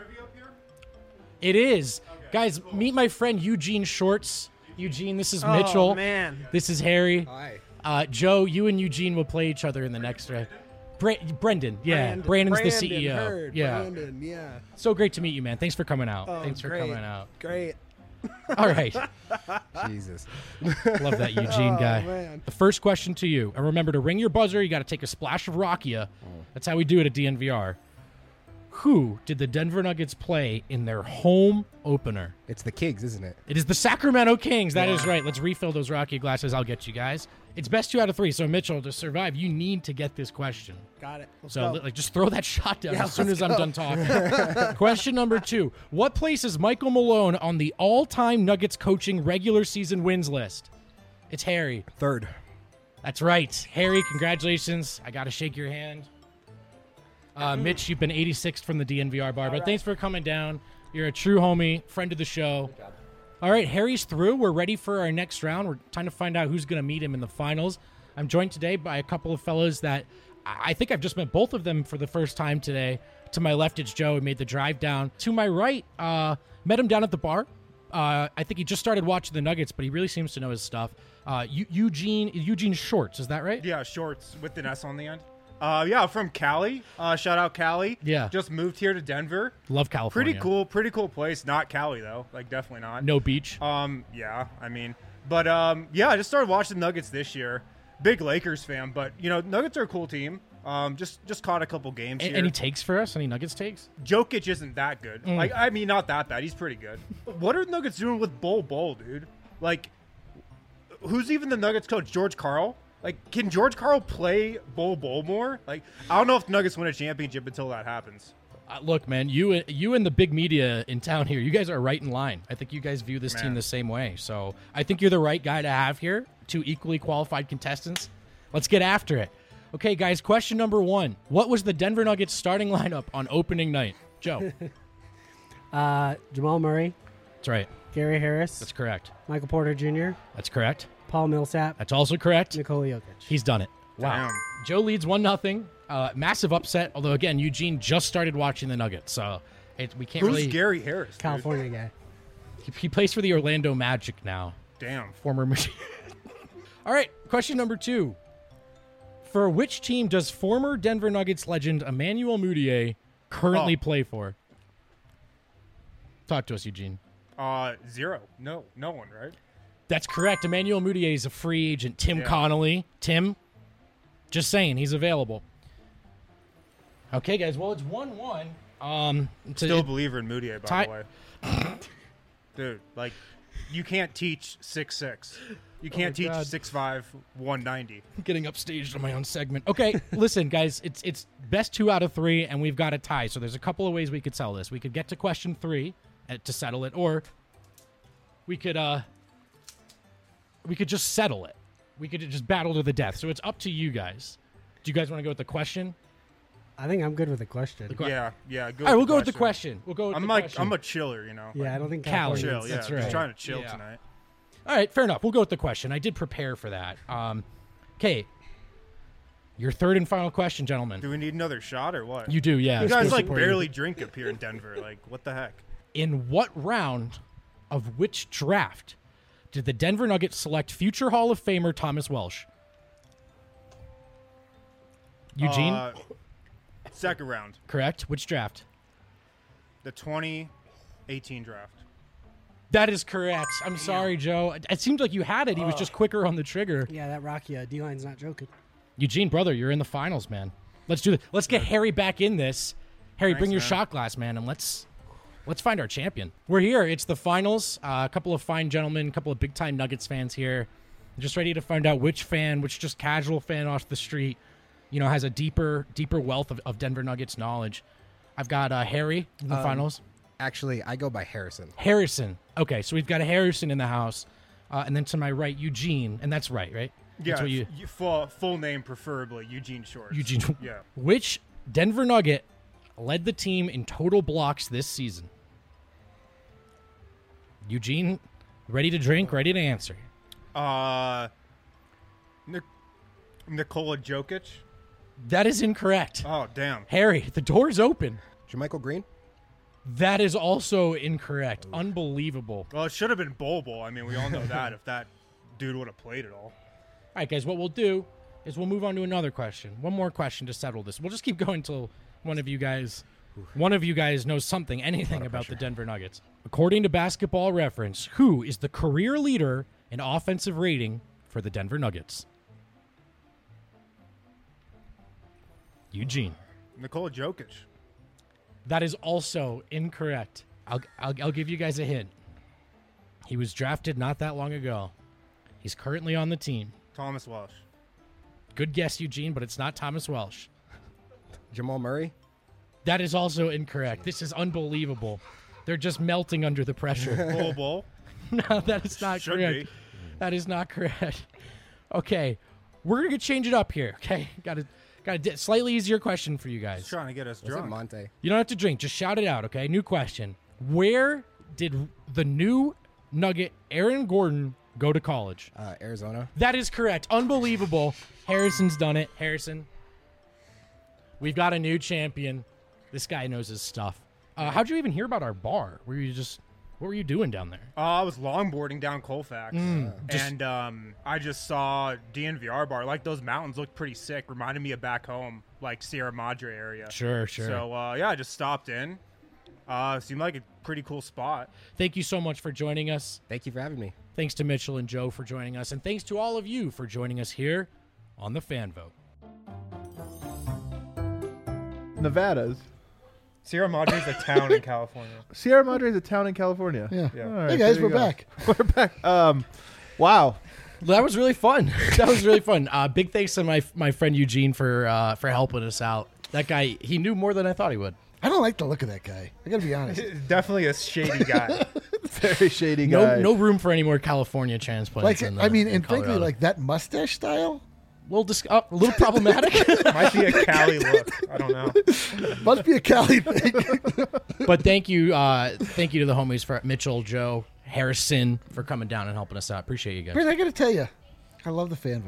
It is. Guys, meet my friend Eugene Shorts. Eugene, this is Mitchell. Oh, man. This is Harry. Hi. Uh, Joe, you and Eugene will play each other in the next round. Bra- Brendan, yeah. Brandon- Brandon's Brandon, the C E O. Heard, yeah. Brandon, yeah. So great to meet you, man. Thanks for coming out. Oh, Thanks for great. coming out. Great. All right. Jesus. Love that Eugene Oh, guy. man. The first question to you. And remember to ring your buzzer. You got to take a splash of Rakia. That's how we do it at D N V R. Who did the Denver Nuggets play in their home opener? It's the Kings, isn't it? It is the Sacramento Kings. That is right. Let's refill those Rakia glasses. I'll get you guys. It's best two out of three. So, Mitchell, to survive, you need to get this question. Got it. Let's So, go. like, just throw that shot down Yeah, as soon let's as I'm done talking. Question number two. What place is Michael Malone on the all-time Nuggets coaching regular season wins list? It's Harry. Third. That's right. Harry, congratulations. I got to shake your hand. Uh, Mitch, you've been eighty-sixth from the D N V R bar, but thanks for coming down. You're a true homie, friend of the show. All right, Harry's through. We're ready for our next round. We're trying to find out who's going to meet him in the finals. I'm joined today by a couple of fellows that I I think I've just met both of them for the first time today. To my left, it's Joe, who made the drive down. To my right, uh, met him down at the bar. Uh, I think he just started watching the Nuggets, but he really seems to know his stuff. Uh, Eu- Eugene Eugene Shorts, is that right? Yeah, Shorts with an S on the end. Uh, yeah, from Cali. Uh, shout out Cali. Yeah. Just moved here to Denver. Love California. Pretty cool, pretty cool place. Not Cali though. Like definitely not. No beach. Um, yeah, I mean, but um, yeah, I just started watching Nuggets this year. Big Lakers fan, but you know, Nuggets are a cool team. Um, just just caught a couple games A- here. any takes for us? Any Nuggets takes? Jokic isn't that good. Mm. Like, I mean, not that bad. He's pretty good. What are the Nuggets doing with Bol Bol, dude? Like, who's even the Nuggets coach? George Karl? Like, can George Karl play Bol Bol more? Like, I don't know if the Nuggets win a championship until that happens. Uh, look, man, you you and the big media in town here, you guys are right in line. I think you guys view this team Man. the same way. So I think you're the right guy to have here. Two equally qualified contestants. Let's get after it. Okay, guys, question number one. What was the Denver Nuggets starting lineup on opening night? Joe. Uh, Jamal Murray, That's right. Gary Harris, That's correct. Michael Porter Junior, That's correct. Paul Millsap, That's also correct. Nikola Jokic. He's done it. Wow. Damn. Joe leads one nothing. Uh, massive upset. Although again, Eugene just started watching the Nuggets, so it, we can't Who's really. Gary Harris? dude? California guy. He, he plays for the Orlando Magic now. Damn. Former machine. All right, question number two. For which team does former Denver Nuggets legend Emmanuel Mudiay currently Oh. play for? Talk to us, Eugene. Uh, zero. No, no one, right? That's correct. Emmanuel Mudiay is a free agent. Tim Yeah. Connolly. Tim, just saying, he's available. Okay, guys. Well, it's one one. Um, it's a- Still a it- believer in Moutier, by Ty- the way. Dude, like, you can't teach six six. You can't teach God. six five, one ninety. getting upstaged on my own segment. Okay, listen, guys, it's it's best two out of three, and we've got a tie. So there's a couple of ways we could settle this. We could get to question three uh, to settle it, or we could uh we could just settle it. We could just battle to the death. So it's up to you guys. Do you guys want to go with the question? I think I'm good with the question. que- Yeah, yeah. Go All right, we'll with go with the question. We'll go with I'm the like, question. I'm a chiller, you know. yeah, I like, don't think Cali. California. chill. Yeah, That's just right. trying to chill Yeah. tonight. All right, fair enough. We'll go with the question. I did prepare for that. Um, okay, your third and final question, gentlemen. Do we need another shot or what? You do, yeah. You guys It's like for you. barely drink up here in Denver. Like, what the heck? In what round of which draft did the Denver Nuggets select future Hall of Famer Thomas Welsh? Eugene, Uh, second round, correct? Which draft? the twenty eighteen draft. That is correct. I'm sorry, Joe. It, it seemed like you had it. He was just quicker on the trigger. Yeah, that Rocky uh, D-line's not joking. Eugene, brother, you're in the finals, man. Let's do this. Let's get Harry back in this. Harry, Thanks, bring your man. shot glass, man, and let's let's find our champion. We're here. It's the finals. Uh, a couple of fine gentlemen, a couple of big-time Nuggets fans here. Just ready to find out which fan, which just casual fan off the street, you know, has a deeper deeper wealth of, of Denver Nuggets knowledge. I've got uh, Harry in the Um, finals. Actually, I go by Harrison. Harrison. Okay, so we've got a Harrison in the house. Uh, and then to my right, Eugene. And that's right, right? Yeah, That's what you, you, full, full name preferably, Eugene Shorts. Eugene. Yeah. Which Denver Nugget led the team in total blocks this season? Eugene, ready to drink, ready to answer. Uh, Nik- Nikola Jokic. That is incorrect. Oh, damn. Harry, the door's open. Jermichael Green? That is also incorrect. Unbelievable. Well, it should have been Bol Bol. I mean, we all know that if that dude would have played it all. All right, guys, what we'll do is we'll move on to another question. One more question to settle this. We'll just keep going until one of you guys one of you guys knows something, anything about the Denver Nuggets. According to Basketball Reference, who is the career leader in offensive rating for the Denver Nuggets? Eugene. Nikola Jokic. That is also incorrect. I'll, I'll, I'll give you guys a hint. He was drafted not that long ago. He's currently on the team. Thomas Welsh. Good guess, Eugene, but it's not Thomas Welsh. Jamal Murray? That is also incorrect. This is unbelievable. They're just melting under the pressure. Bol Bol. No, that is not Should correct. be. That is not correct. Okay, we're gonna change it up here. Okay, got a got a di- slightly easier question for you He's guys. trying to get us Was it drunk. Monte? You don't have to drink. Just shout it out. Okay, new question. Where did the new Nugget Aaron Gordon go to college? Uh, Arizona? That is correct. Unbelievable. Harrison's done it. Harrison, we've got a new champion. This guy knows his stuff. Uh, how'd you even hear about our bar? Were you just, what were you doing down there? Uh, I was longboarding down Colfax, Mm, just- and um, I just saw D N V R bar. Like, those mountains looked pretty sick. Reminded me of back home, like Sierra Madre area. Sure, sure. So uh, yeah, I just stopped in. Uh, seemed like a pretty cool spot. Thank you so much for joining us. Thank you for having me. Thanks to Mitchell and Joe for joining us. And thanks to all of you for joining us here on the Fan Vote. Nevada's. Sierra Madre is a town in California. Sierra Madre is a town in California. Yeah. Yeah. All right, Hey guys, there you we're go. back. We're back. Um, wow. That was really fun. That was really fun. Uh, big thanks to my my friend Eugene for uh, for helping us out. That guy, he knew more than I thought he would. I don't like the look of that guy. I gotta be honest. Definitely a shady guy. Very shady No guy. no room for any more California transplants. Like, in, uh, I mean, in and frankly, Colorado. like that mustache style a little, dis- uh, a little problematic. Might be a Cali look. I don't know. must be a Cali thing. But thank you, uh, thank you to the homies for Mitchell, Joe, Harrison for coming down and helping us out. Appreciate you guys. Brent, I gotta tell you, I love the fan vote.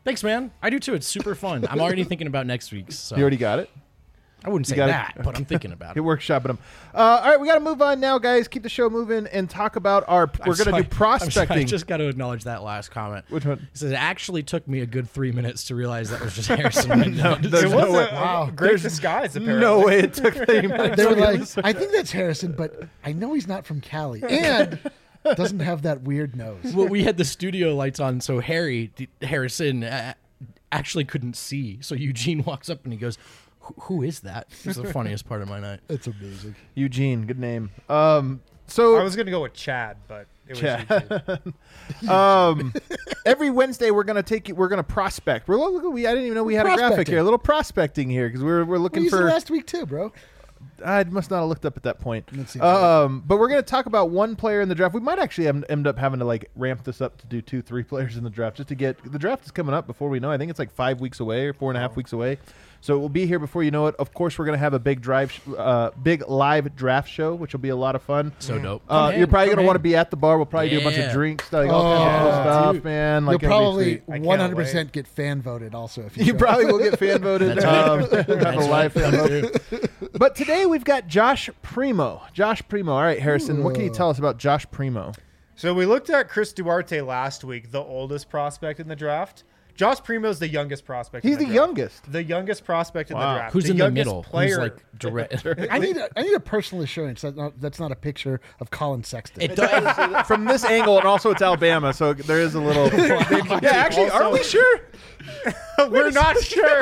Thanks, man. I do too. It's super fun. I'm already thinking about next week's. So. You already got it? I wouldn't say got it? that, but I'm thinking about You're it. workshopping them. Uh, all right, we got to move on now, guys. Keep the show moving and talk about our. We're going to do I'm sorry, prospecting. I just got to acknowledge that last comment. Which one? It says it actually took me a good three minutes to realize that was just Harrison. no, there's It no was way. a, Wow. a great disguise, apparently. No way it took thirty minutes. They were like, I think that's Harrison, but I know he's not from Cali and doesn't have that weird nose. Well, we had the studio lights on, so Harry D- Harrison uh, actually couldn't see. So Eugene walks up and he goes, "Who- "Who is that?" It's the funniest part of my night. It's amazing. Eugene, good name. Um, so I was going to go with Chad, but it was Chad. Eugene. um, every Wednesday we're gonna take you. We're gonna prospect. We're look, we I didn't even know we had a graphic Prospecting. here. A little prospecting here because we're we're We looking used it for. last week too, bro. I must not have looked up at that point. Let's see. Um, but we're going to talk about one player in the draft. We might actually em- end up having to like ramp this up to do two, three players in the draft just to get the draft is coming up before we know. I think it's like five weeks away or four and a half weeks away. So it will be here before you know it. Of course, we're going to have a big drive, sh- uh, big live draft show, which will be a lot of fun. So dope. Uh, Come you're in, probably come going to want to in. be at the bar. We'll probably do a bunch of Yeah. drinks, like all kinds of cool Oh, stuff, dude. man. Like You'll it'll be probably sweet. I can't one hundred percent get fan voted also if you You go. probably will get fan voted. That's um, right. have a That's live right. fan vote. But today we've got Josh Primo. Josh Primo. All right, Harrison, what can you tell us about Josh Primo? So we looked at Chris Duarte last week, the oldest prospect in the draft. Josh Primo's the youngest prospect. He's in the, the draft. youngest. The youngest prospect in Wow. the draft. Who's the in the youngest middle? Player. Who's like direct? I need a, I need a personal assurance that not, that's not a picture of Colin Sexton. It does. From this angle, and also it's Alabama, so there is a little. yeah, actually, are we sure? We're not sure.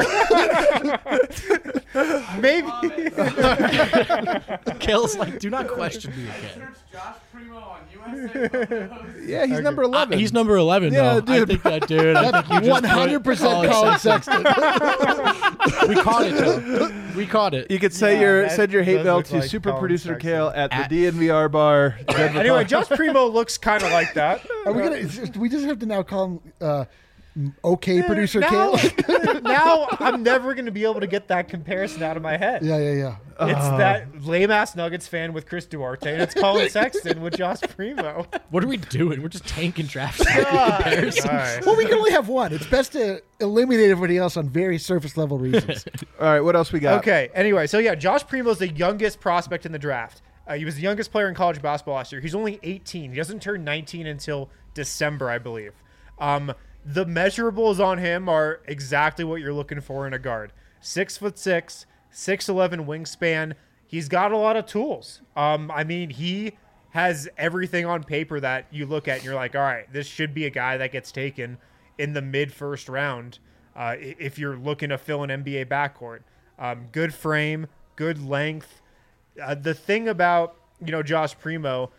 Maybe. Kale's like, do not question me again. Yeah, he's number Uh, eleven. he's number eleven. Yeah, though. I dude. think that dude. I think you just One hundred percent Colin Sexton. We caught it. Though. We caught it. You could say Yeah, your that send your hate does mail look to like super Colin producer Sexton. Kale at, At- the D N V R bar. Denver, Anyway, Colorado. Josh Primo looks kind of like that. Are we gonna? it's just- we just have to now call him uh, okay, producer now, Kale. now I'm never going to be able to get that comparison out of my head. yeah, yeah, yeah. It's that lame ass Nuggets fan with Chris Duarte, and it's Colin Sexton with Josh Primo. What are we doing? We're just tanking draft God. comparisons. All right. Well, we can only have one. It's best to eliminate everybody else on very surface level reasons. All right, what else we got? Okay. Anyway, so yeah, Josh Primo's the youngest prospect in the draft. Uh, he was the youngest player in college basketball last year. He's only eighteen. He doesn't turn nineteen until December, I believe. Um, the measurables on him are exactly what you're looking for in a guard. Six foot six, six eleven wingspan. He's got a lot of tools. Um, I mean, he has everything on paper that you look at and you're like, all right, this should be a guy that gets taken in the mid first round. Uh, i- if you're looking to fill an N B A backcourt, um, good frame, good length. Uh, the thing about, you know, Josh Primo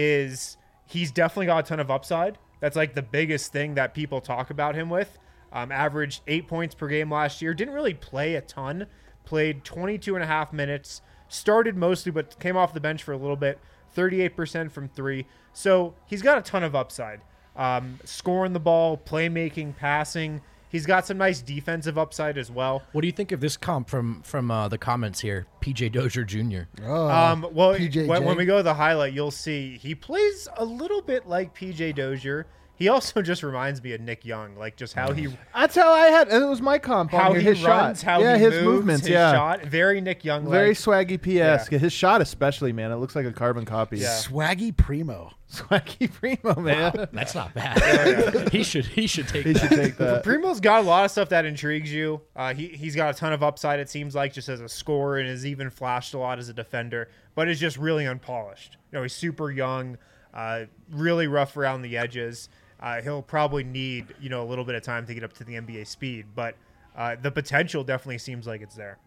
is he's definitely got a ton of upside. That's like the biggest thing that people talk about him with. Um, averaged eight points per game last year. Didn't really play a ton. Played twenty-two and a half minutes. Started mostly, but came off the bench for a little bit. thirty-eight percent from three. So he's got a ton of upside. Um, scoring the ball, playmaking, passing. He's got some nice defensive upside as well. What do you think of this comp from from uh, the comments here? P J Dozier Junior Oh, Um, well, P J J. when, when we go to the highlight, you'll see he plays a little bit like P J Dozier. He also just reminds me of Nick Young, like just how he That's how I had. It was my comp. on how here, he his runs, shot. how yeah, he his moves, movements. his yeah, shot, very Nick Young. very like. swaggy P S. Yeah. His shot, especially, man, it looks like a carbon copy. Yeah. Swaggy Primo. Swaggy Primo, man. That's not bad. he should he should take He that. should take that. Primo's got a lot of stuff that intrigues you. Uh, he he's got a ton of upside. It seems like just as a scorer, and has even flashed a lot as a defender, but is just really unpolished. You know, he's super young, uh, really rough around the edges. Uh, he'll probably need, you know, a little bit of time to get up to the N B A speed, but uh, the potential definitely seems like it's there.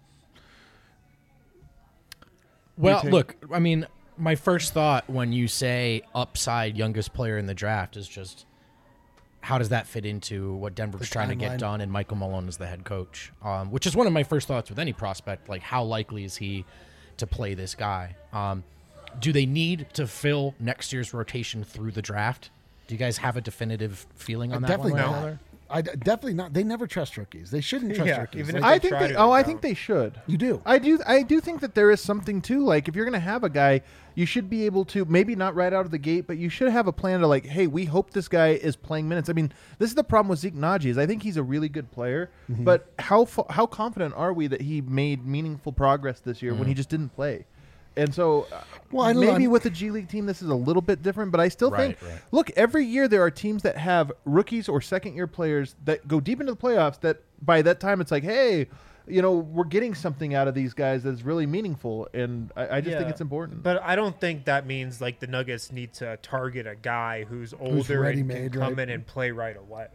Well, take- look, I mean, my first thought when you say upside youngest player in the draft is just how does that fit into what Denver's The trying to timeline. get done and Michael Malone is the head coach, um, which is one of my first thoughts with any prospect. Like, how likely is he to play this guy? Um, do they need to fill next year's rotation through the draft? Do you guys have a definitive feeling on that Definitely one? way or not. another? I d- definitely not. They never trust rookies. They shouldn't trust Yeah, rookies. even Like, if I they think try they. to, Oh, they I don't. think they should. you do. I do. I do think that there is something too. Like if you're going to have a guy, you should be able to maybe not right out of the gate, but you should have a plan to like, hey, we hope this guy is playing minutes. I mean, this is the problem with Zeke Naji is I think he's a really good player, Mm-hmm. but how fa- how confident are we that he made meaningful progress this year Mm. when he just didn't play? And so, uh, Well, I don't know, maybe I'm- with a G League team, this is a little bit different. But I still Right, think, right. look, every year there are teams that have rookies or second year players that go deep into the playoffs. That by that time it's like, hey, you know, we're getting something out of these guys that's really meaningful, and I, I just think Yeah, it's important. But I don't think that means like the Nuggets need to target a guy who's older and ready-made, can come right? in and play right away.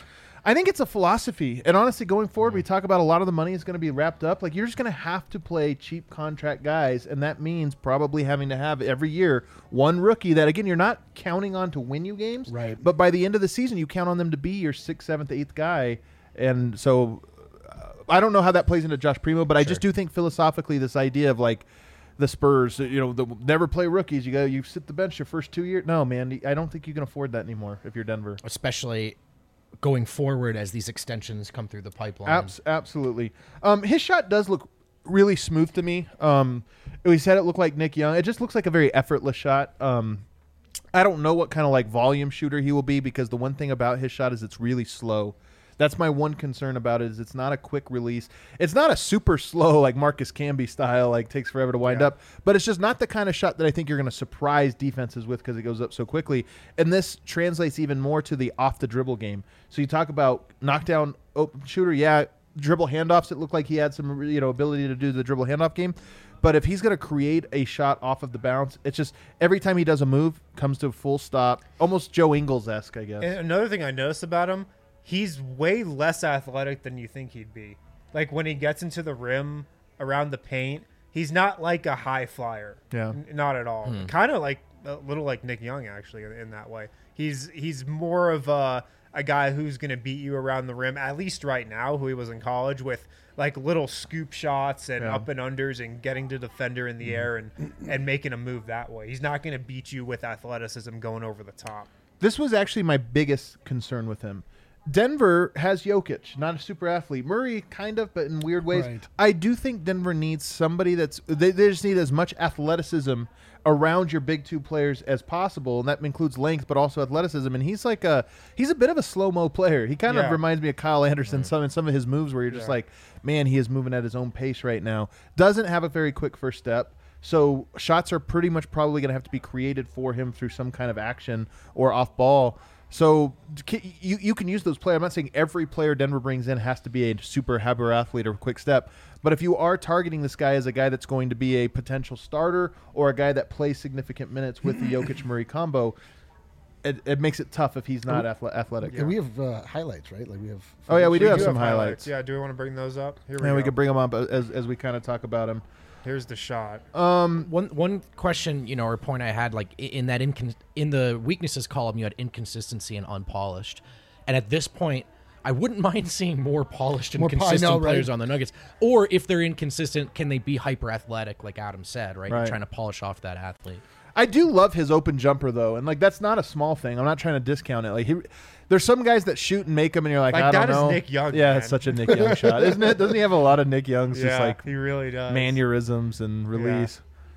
I think it's a philosophy, and honestly, going forward, we talk about a lot of the money is going to be wrapped up. Like you're just going to have to play cheap contract guys, and that means probably having to have every year one rookie that again you're not counting on to win you games, Right. But by the end of the season, you count on them to be your sixth, seventh, eighth guy, and so uh, I don't know how that plays into Josh Primo, but I just do think philosophically this idea of like the Spurs, you know, the, never play rookies. You go, you sit the bench your first two years. No, man, I don't think you can afford that anymore if you're Denver. Especially going forward as these extensions come through the pipeline. Abs- absolutely. Um, his shot does look really smooth to me. Um, we said it looked like Nick Young. It just looks like a very effortless shot. Um, I don't know what kind of like volume shooter he will be because the one thing about his shot is it's really slow. That's my one concern about it is it's not a quick release. It's not a super slow like Marcus Camby style like takes forever to wind Yeah. up, but it's just not the kind of shot that I think you're going to surprise defenses with because it goes up so quickly. And this translates even more to the off the dribble game. So you talk about knockdown open shooter, yeah, dribble handoffs. It looked like he had some you know ability to do the dribble handoff game. But if he's going to create a shot off of the bounce, it's just every time he does a move, comes to a full stop, almost Joe Ingles-esque, I guess. And another thing I noticed about him, he's way less athletic than you think he'd be. Like when he gets into the rim around the paint, he's not like a high flyer. Yeah. N- not at all. Kind of like a little like Nick Young actually in, in that way. He's he's more of a a guy who's going to beat you around the rim at least right now who he was in college with like little scoop shots and Yeah. up and unders and getting to defender in the air and and making a move that way. He's not going to beat you with athleticism going over the top. This was actually my biggest concern with him. Denver has Jokic, not a super athlete. Murray, kind of, but in weird ways. Right. I do think Denver needs somebody that's they, they just need as much athleticism around your big two players as possible, and that includes length, but also athleticism. And he's like a he's a bit of a slow mo player. He kind Yeah. of reminds me of Kyle Anderson. Some in some of his moves where you're just Yeah. like, man, he is moving at his own pace right now. Doesn't have a very quick first step. So shots are pretty much probably going to have to be created for him through some kind of action or off ball. So c- you you can use those players. I'm not saying every player Denver brings in has to be a super hyper athlete or quick step, but if you are targeting this guy as a guy that's going to be a potential starter or a guy that plays significant minutes with the Jokic Murray combo, it, it makes it tough if he's not athle- athletic. And we have uh, highlights, right? Like we have. Oh yeah, we do We have some highlights. Yeah, do we want to bring those up? Here we And go. we could bring them up as as we kind of talk about him. Here's the shot. Um, One one question, you know, or point I had, like i- in that incon- in the weaknesses column, you had inconsistency and unpolished, and at this point, I wouldn't mind seeing more polished and More po- I consistent know, right? players on the Nuggets. Or if they're inconsistent, can they be hyper athletic, like Adam said, right? Right. Trying to polish off that athlete. I do love his open jumper though, and like that's not a small thing. I'm not trying to discount it. Like he, there's some guys that shoot and make them, and you're like, Like, I don't that is know. Nick Young, Yeah, man. it's such a Nick Young shot, isn't it? Doesn't he have a lot of Nick Young's Yeah, just like he really does. mannerisms and release?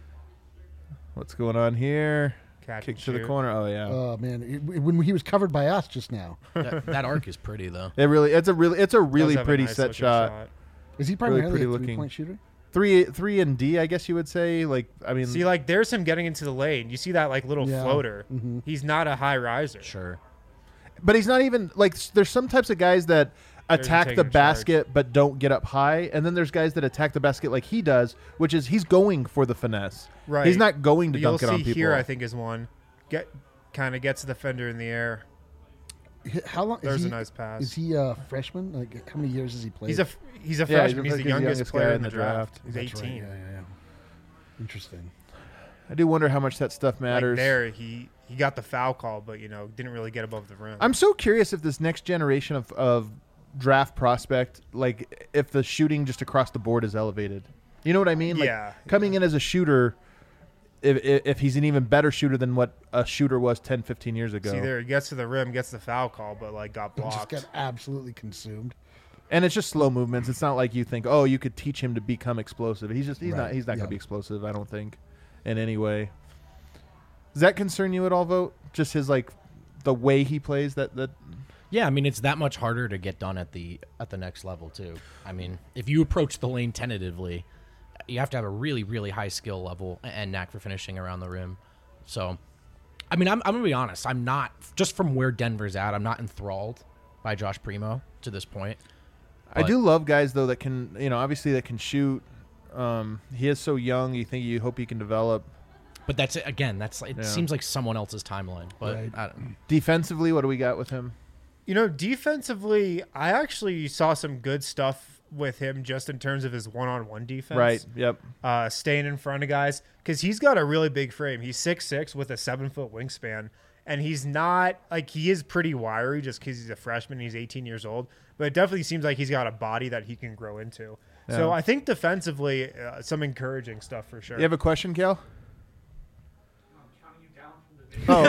What's going on here? Catch Kick and to the shoot. corner. Oh yeah, Oh man, it, when he was covered by us just now, that, that arc is pretty though. it really, it's a really, it's a Does really have a pretty nice set looking shot. is he Really primarily pretty a looking. three-point shooter? Three, three and D, I guess you would say. Like, I mean, See, like there's him getting into the lane. You see that like little Yeah. floater. Mm-hmm. He's not a high riser. Sure. but he's not even like. s- There's some types of guys that attack taking the a charge. basket but don't get up high, and then there's guys that attack the basket like he does, which is he's going for the finesse. Right. He's not going to You'll dunk it see on people. here. I think is one. Get kind of gets the defender in the air. H- How long? There's is he, a nice pass. Is he a freshman? Like how many years has he played? He's a f- he's a Yeah, he's freshman. He's, like the the youngest, youngest player guy in the draft. He's That's right, eighteen. Yeah, yeah, yeah. Interesting. I do wonder how much that stuff Like matters. there, he he got the foul call, but you know didn't really get above the rim. I'm so curious if this next generation of, of draft prospect, like if the shooting just across the board is elevated. You know what I mean? Like Yeah, coming in as a shooter, if, if if he's an even better shooter than what a shooter was ten, fifteen years ago. See, there he gets to the rim, gets the foul call, but like got Just blocked. got absolutely consumed. And it's just slow movements. It's not like you think, oh, you could teach him to become explosive. He's just he's Right. not he's not Yeah. going to be explosive. I don't think, in any way. Does that concern you at all, Vote? Just his like the way he plays. That that Yeah, I mean it's that much harder to get done at the at the next level too. I mean, if you approach the lane tentatively, you have to have a really really high skill level and knack for finishing around the rim. So, I mean, I'm I'm gonna be honest. I'm not just from where Denver's at. I'm not enthralled by Josh Primo to this point. I But- do love guys though that can you know obviously that can shoot. Um, he is so young. You think you hope he can develop. But that's it again. That's it. Yeah. Seems like someone else's timeline. But Right. I don't, Defensively, what do we got with him? You know, defensively, I actually saw some good stuff with him just in terms of his one-on-one defense. Right. Yep. Uh, staying in front of guys because he's got a really big frame. He's six six with a seven-foot wingspan, and he's not like he is pretty wiry just because he's a freshman. And he's eighteen years old, but it definitely seems like he's got a body that he can grow into. So Yeah. I think defensively, uh, some encouraging stuff for sure. You have a question, Kel? Trying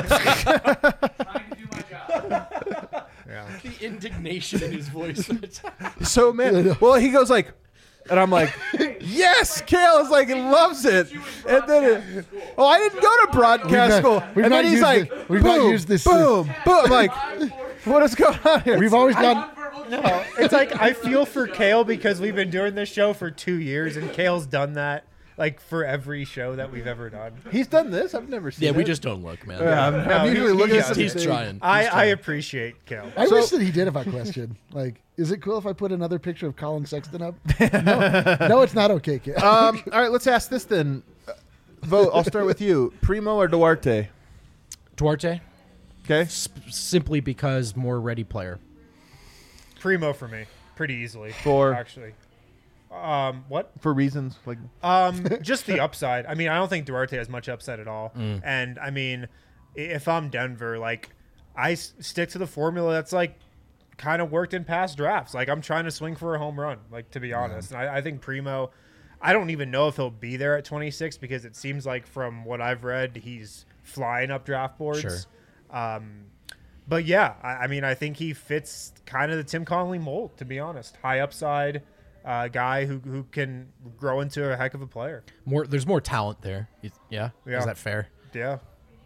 to do my job. Yeah. the indignation in his voice. So man, well he goes like, and I'm like, yes, Kale is like, he loves it. And then, it, oh, I didn't go to broadcast We've not- school. we've and not then he's used like, it- we've not boom, used this- boom, boom. I'm like, what is going on here? We've always done. No, it's like I feel for Kale because we've been doing this show for two years, and Kale's done that like for every show that we've ever done. He's done this. I've never seen. yeah, we it. just don't look, man. Yeah, I'm, I'm No, he- usually he looking does. at He's something. trying. I, I appreciate Kale. I So- wish that he did have a question. Like, is it cool if I put another picture of Colin Sexton up? No, no it's not okay, kid. Um, all right, let's ask this then. Uh, Vote. I'll start with you. Primo or Duarte? Duarte, Okay. sp- simply because more ready player. Primo for me, pretty easily. For- actually, um, what? For reasons like Um, just the upside. I mean, I don't think Duarte has much upside at all. Mm. And I mean, i- if I'm Denver, like I s- stick to the formula that's like kind of worked in past drafts. Like I'm trying to swing for a home run. Like to be honest, and I, I think Primo. I don't even know if he'll be there at twenty-six because it seems like from what I've read, he's flying up draft boards. Sure. Um, but yeah, I, I mean, I think he fits kind of the Tim Connolly mold. To be honest, high upside uh, guy who who can grow into a heck of a player. More, there's more talent there. You- Yeah, Yeah. is that fair? Yeah.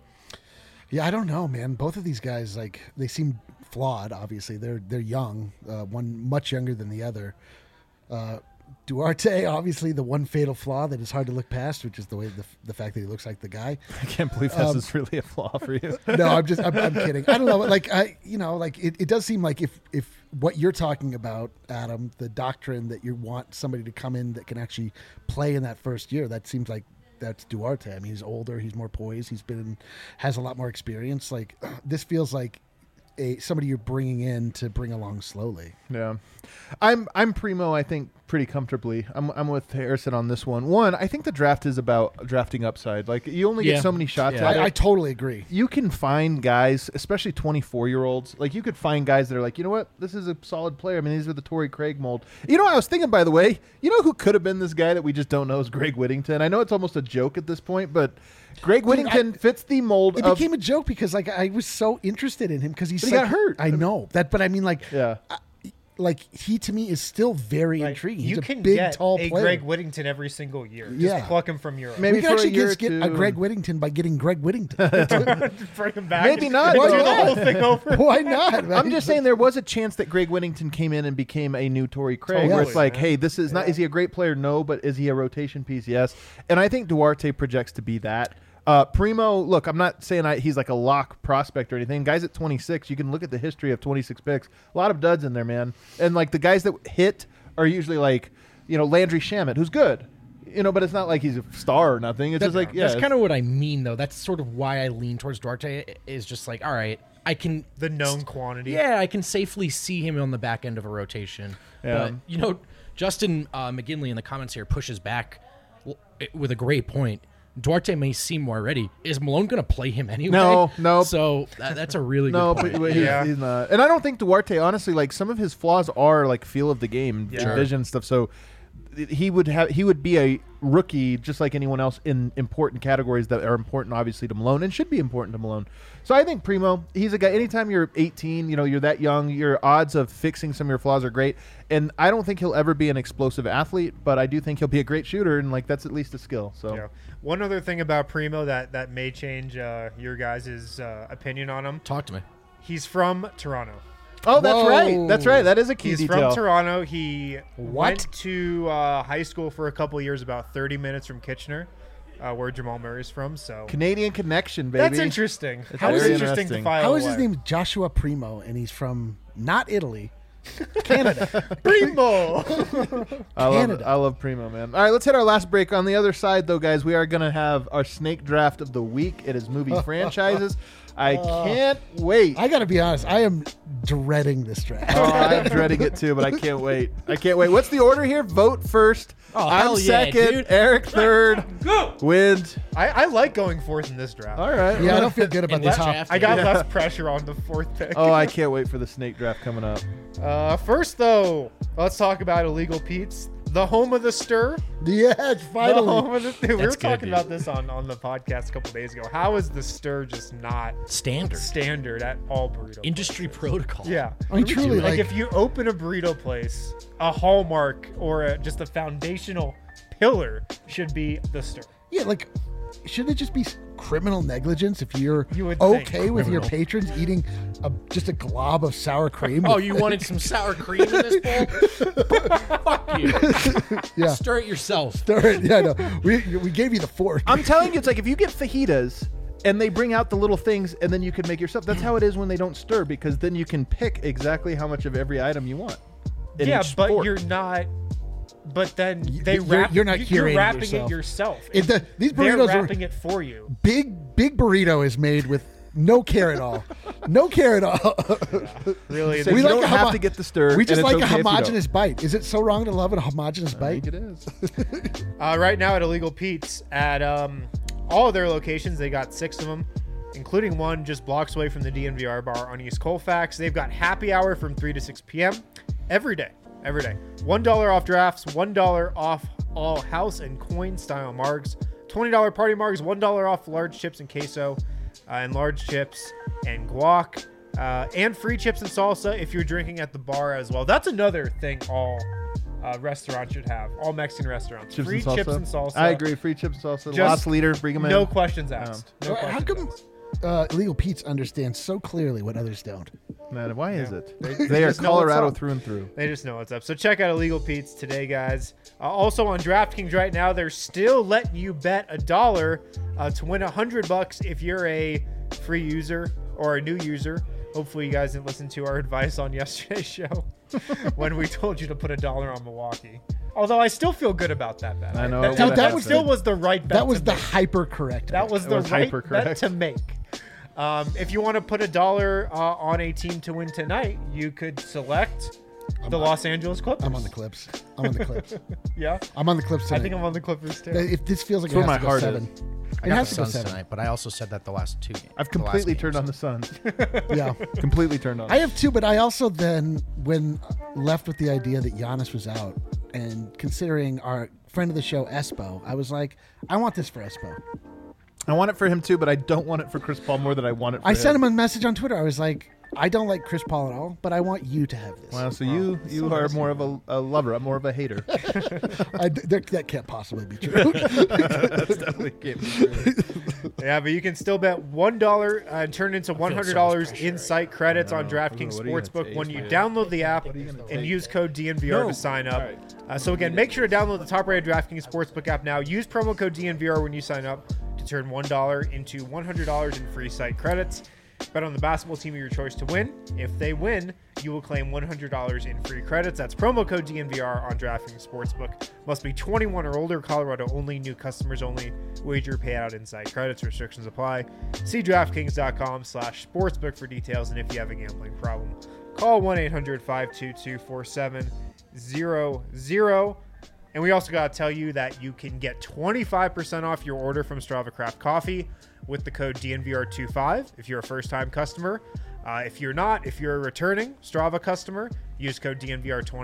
Yeah, I don't know, man. Both of these guys, like, they seem flawed. Obviously, they're they're young. Uh, one much younger than the other. Uh, Duarte, obviously, the one fatal flaw that is hard to look past, which is the way the, the fact that he looks like the guy. I can't believe this is really a flaw for you. No, I'm just I'm, I'm kidding. I don't know. Like I, you know, like it, it does seem like if if what you're talking about, Adam, the doctrine that you want somebody to come in that can actually play in that first year, that seems like that's Duarte. I mean, he's older, he's more poised, he's been has a lot more experience. Like this feels like a somebody you're bringing in to bring along slowly. Yeah, I'm I'm Primo. I think pretty comfortably. I'm I'm with Harrison on this one. One, I think the draft is about drafting upside. Like you only Yeah. get so many shots Yeah. at it. I, I totally agree. You can find guys, especially twenty-four year olds. Like you could find guys that are like, you know what, this is a solid player. I mean, these are the Torrey Craig mold. You know, what I was thinking, by the way, you know who could have been this guy that we just don't know is Greg Whittington. I know it's almost a joke at this point, but Greg Whittington fits the mold It of. became a joke because like I was so interested in him because he's But he such- got hurt. I know that, but I mean like yeah. like he to me is still very Like, intriguing. He's you a can big, get tall a player. Greg Whittington every single year. Just Yeah. pluck him from Europe. Maybe we can for a actually year just or get a two. Greg Whittington by getting Greg Whittington. Bring him back. Maybe and not. Do Why the not? whole thing over. Why not? man? I'm just saying there was a chance that Greg Whittington came in and became a new Torrey Craig, where it's Totally, like, man. hey, this is not. Is he a great player? No, but is he a rotation piece? Yes. And I think Duarte projects to be that. Uh, Primo, look, I'm not saying I, he's like a lock prospect or anything. Guys at twenty-six, you can look at the history of twenty-six picks. A lot of duds in there, man. And like the guys that hit are usually like, you know, Landry Shamet, who's good, you know, but it's not like he's a star or nothing. It's just like, yeah, That's it's- kind of what I mean, though. That's sort of why I lean towards Duarte. Is just like, all right, I can The known quantity. Yeah, I can safely see him on the back end of a rotation. Yeah. But, you know, Justin uh, McGinley in the comments here pushes back w- with a great point. Duarte may seem more ready. Is Malone going to play him anyway? No, no. So that, that's a really No, good but point. but he's, Yeah. he's not. And I don't think Duarte, honestly, like some of his flaws are like feel of the game, Yeah. vision stuff. So he would have he would be a rookie just like anyone else in important categories that are important, obviously, to Malone and should be important to Malone. So I think Primo, he's a guy. Anytime you're eighteen, you know, you're that young, your odds of fixing some of your flaws are great. And I don't think he'll ever be an explosive athlete, but I do think he'll be a great shooter, and like that's at least a skill. So Yeah. One other thing about Primo that that may change uh, your guys' uh, opinion on him. Talk to me. He's from Toronto. oh, that's Whoa. right, that's right. That is a key He's detail. from Toronto. He What? went to uh, high school for a couple of years, about thirty minutes from Kitchener, uh, where Jamal Murray's from. So Canadian connection, baby. that's interesting. That's How is very interesting to interesting. file How is his away. name Joshua Primo, and he's from not Italy, Canada. Primo. I love, Canada. I love Primo, man. All right, let's hit our last break. On the other side, though, guys, we are going to have our snake draft of the week. It is movie franchises. I can't wait. I got to be honest, I am dreading this draft. Oh, I'm dreading it too, but I can't wait. I can't wait. What's the order here? Vote first. Oh, I'm hell yeah, second. dude. Eric third. Go. Wind. I, I like going fourth in this draft. All right. Yeah, I don't feel good about In the this top. draft, I got Yeah. less pressure on the fourth pick. Oh, I can't wait for the snake draft coming up. Uh, first, though, let's talk about Illegal Pete's, the home of the stir. Yes, The finally. home of the, we were That's good, talking dude. about this on, on the podcast a couple days ago. How is the stir just not Standard. standard at all burrito Industry places? protocol. Yeah. I mean, truly, Like, like, if you open a burrito place, a hallmark or a, just a foundational pillar should be the stir. yeah, like, shouldn't it just be criminal negligence if you're You would think. okay with your Criminal. patrons eating a, just a glob of sour cream? Oh, you wanted some sour cream in this bowl? Fuck you. yeah. Stir it yourself. Stir it. Yeah, no, we we gave you the fork. I'm telling you, it's like if you get fajitas and they bring out the little things and then you can make yourself. That's how it is when they don't stir, because then you can pick exactly how much of every item you want. in Yeah, each but sport. you're not. But then they you're- wrap. you're not You're curating wrapping yourself. it yourself. It- the- these They're burritos are- wrapping it for you. big big burrito is made with no care at all. No care at all. Really, So We you like don't a have homo- to get the stir. we just and it's like okay a if you don't. homogenous bite. Is it so wrong to love a homogenous I bite? think it is. Uh, right now at Illegal Pete's, at um, all of their locations, they got six of them, including one just blocks away from the D N V R bar on East Colfax. They've got happy hour from three to six p.m. every day. Every day. one dollar off drafts, one dollar off all house and coin style margs, twenty dollars party margs, one dollar off large chips and queso, uh, and large chips and guac, uh, and free chips and salsa if you're drinking at the bar as well. That's another thing all uh, restaurants should have. All Mexican restaurants. Chips free and salsa. chips and salsa. I agree. Free chips and salsa. Just Lost leader. Bring them in. No questions asked. No Well, How questions come asked. uh, Illegal Pete's understands so clearly what others don't? Man, why is Yeah. it? They- They, they are just know what's Colorado up. through and through. They just know what's up. So check out Illegal Pete's today, guys. Uh, also on DraftKings right now, they're still letting you bet a dollar uh, to win a hundred bucks if you're a free user or a new user. Hopefully, you guys didn't listen to our advice on yesterday's show when we told you to put a dollar on Milwaukee. Although I still feel good about that bet. I know, that, it that, would've that happened. still was the right bet. That was to the make. hyper correct. That was the was right hyper-correct. bet to make. Um, if you want to put a dollar uh, on a team to win tonight, you could select the on- Los Angeles Clippers. I'm on the Clips. I'm on the Clips. Yeah, I'm on the Clips I tonight. think I'm on the Clippers too. If this feels like That's it where has to my go heart seven. is. I It got has the to go Suns seven. tonight, but I also said that the last two games. I've the last completely game, turned on so- the Suns. Yeah. completely turned on. I have two, but I also then, when left with the idea that Giannis was out, and considering our friend of the show, Espo, I was like, I want this for Espo. I want it for him too, but I don't want it for Chris Paul more than I want it for I him. sent him a message on Twitter. I was like, I don't like Chris Paul at all, but I want you to have this. Wow, so you you so are nice. more of a, a lover. I'm more of a hater. I, that, that can't possibly be true. That's definitely can't be true. Yeah, but you can still bet one dollar uh, and turn into one hundred dollars pressure in right site credits I on know. DraftKings What are you gonna Sportsbook take, when you man? download the app What are you gonna and take? use code D N V R No. to sign up. All right. Uh, so again, make sure to download the top-rated DraftKings Sportsbook app now. Use promo code D N V R when you sign up to turn one dollar into one hundred dollars in free site credits. Bet on the basketball team of your choice to win. If they win, you will claim one hundred dollars in free credits. That's promo code D N V R on DraftKings Sportsbook. Must be twenty-one or older. Colorado only. New customers only. Wager payout inside credits. Restrictions apply. See DraftKings.com slash sportsbook for details. And if you have a gambling problem, call one eight hundred five two two four seven zero zero. And we also got to tell you that you can get twenty-five percent off your order from Strava Craft Coffee with the code D N V R twenty-five if you're a first-time customer. Uh, if you're not, if you're a returning Strava customer, use code D N V R twenty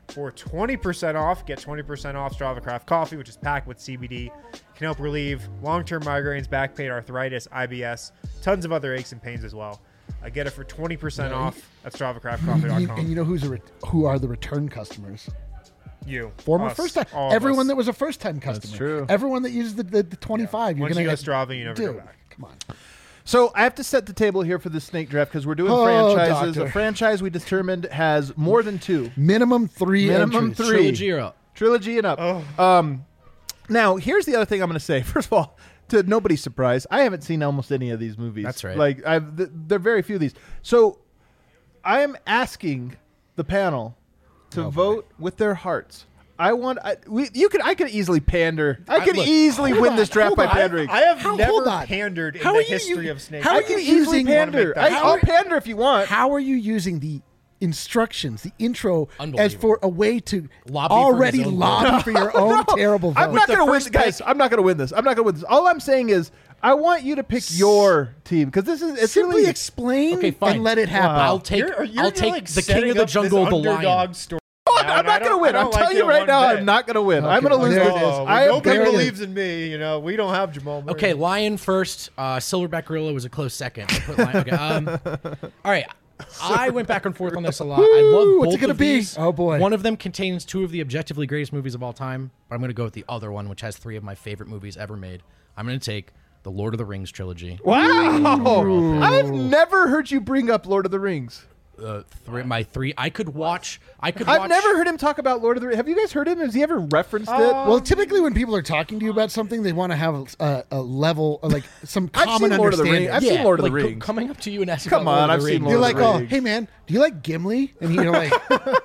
For twenty percent off, get twenty percent off Strava Craft Coffee, which is packed with C B D. Can help relieve long-term migraines, back pain, arthritis, I B S, tons of other aches and pains as well. I get it for twenty percent off at strava craft coffee dot You- com. and you know who's a re- who are the return customers? You. Former Us, first time. all of Everyone us. that was a first time customer. true. Everyone that uses the, the, the twenty-five. You're Once gonna you go get- Strava, you never go Dude, back. Come on. So I have to set the table here for the snake draft because we're doing Oh, franchises. doctor. A franchise we determined has more than two. Minimum three Minimum entries. three. Trilogy or up. Trilogy and up. Oh. Um, now, here's the other thing I'm going to say. First of all, to nobody's surprise, I haven't seen almost any of these movies. That's right. Like, I've th- there are very few of these. So I am asking the panel to Oh, boy. vote with their hearts. I want. I, we, you could. I could easily pander. I I- could look, easily hold win on, this draft hold by on. pandering. I have How- never hold on. pandered in How the are you history u- of snakes. how I are can you easily using- pander. I, How I'll are- pander if you want. How are you using the instructions, the intro, as Unbelievable. for a way to Lobby for already his own lobby for your own terrible vote? I'm not the going to win, first guys. I'm not going to win this. I'm not going to win this. All I'm saying is, I want you to pick your team because this is it's Simply really explain Okay, fine. and let it happen. I'll take. You're, you're I'll take like the setting king of the up this jungle, the underdog lion. Story. I'm now, and not I going to don't- win. I I'm don't telling like you it right one now, bit. I'm not going to win. I'm Okay, going to lose there this. it is. Oh, I am nobody there it is. believes in me. You know, we don't have Jamal Murray. Okay, lion first. Uh, silverback gorilla was a close second. I put lion. Okay. Um, all right. I went back and forth on this a lot. I love Woo, both what's it gonna of be? these. Oh, boy. One of them contains two of the objectively greatest movies of all time, but I'm going to go with the other one, which has three of my favorite movies ever made. I'm going to take the Lord of the Rings trilogy. Wow. I've never heard you bring up Lord of the Rings. Uh, three, my three. I could watch. I could. I've watch, never heard him talk about Lord of the Rings. Have you guys heard him? Has he ever referenced it? Well, typically when people are talking to you about something, they want to have a, a level, uh, like some I've common seen Lord of the understanding. Rings. I've seen Lord of the like, co- Rings. coming up to you and asking Come about Lord on, of I've the seen Rings. You're Lord like, of the oh, Rings. hey man, do you like Gimli? And you're like,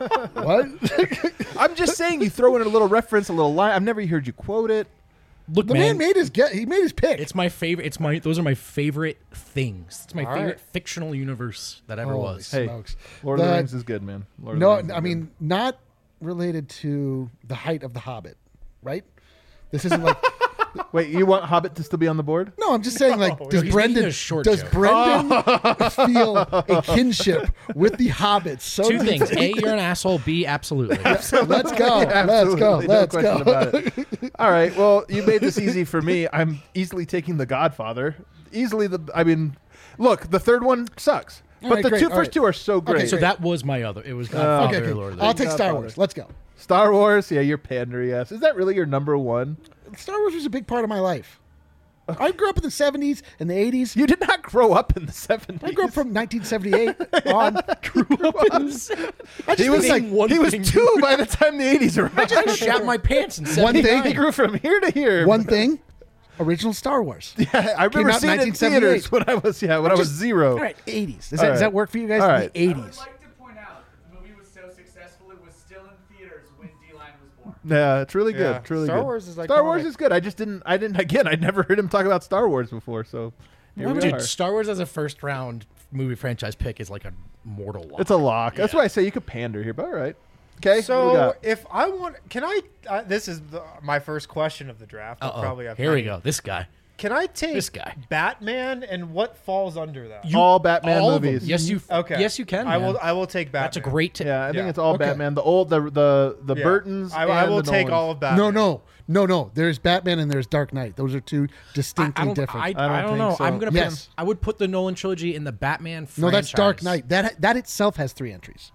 what? I'm just saying you throw in a little reference, a little line. I've never heard you quote it. Look, The man made his get. He made his pick. It's my favorite. It's my. Those are my favorite things. It's my All favorite right. fictional universe that ever Holy was. Hey, smokes. Lord of the The- Rings is good, man. Lord of the No, Rings is I good. mean not related to the height of the Hobbit, right? This isn't like. Wait, you want Hobbit to still be on the board? No, I'm just saying, like, No, does he's Brendan making a short does joke. Brendan feel a kinship with the Hobbits? So Two things: A, you're an asshole. B, absolutely. Let's go. Let's go. Absolutely, no Let's question go. about it. All right, well, you made this easy for me. I'm easily taking The Godfather. Easily the. I mean, look, the third one sucks, All but right, the great, two all first right. two are so great. Okay, so that was my other. It was Uh, Godfather Okay, or okay. Lord of the I'll Rings. take Star Godfather. Wars. Let's go. Star Wars, yeah, you're pandering. Yes, is that really your number one? Star Wars was a big part of my life. I grew up in the seventies and the eighties. You did not grow up in the seventies. I grew up from nineteen seventy-eight on. Grew up in the I just He was think, like Name one he was thing. two by the time the eighties arrived. I shat my pants in One thing- seventy-nine. He grew from here to here. one thing, original Star Wars. Yeah, I remember out in seeing it in nineteen seventy-eight. theaters when I was yeah when I was zero. All right, eighties. Does All that, does right. that work for you guys? All In right. the I would eighties. like to point out the movie was so successful it was still in theaters when D-Line was born. Yeah, it's really good. Yeah, It's really Star good. Wars is Star Wars iconic. is good. I just didn't. I didn't. Again, I'd never heard him talk about Star Wars before. So here we Dude, are. Star Wars as a first round movie franchise pick is like a mortal lock. It's a lock. That's Yeah. why I say you could pander here. But all right. Okay. what do we So got? if I want, can I? Uh, this is the, my first question of the draft. I'll Uh-oh. probably have Here we many. go. This guy. Can I take This guy. Batman and what falls under that? all Batman All of them. movies. Yes, you. Okay. Yes, you can. I man. will. I will take Batman. That's a great. T- Yeah, I think Yeah. it's all Okay. Batman. The old, the the the Yeah. Burtons. I, and I will the take Nolans. all of Batman. No, no, no, no. There's Batman and there's Dark Knight. Those are two I, distinctly I don't. different. I, I don't I don't think know. so. I'm gonna. Yes. Put, I would put the Nolan trilogy in the Batman. Franchise. no, that's Dark Knight. That that itself has three entries.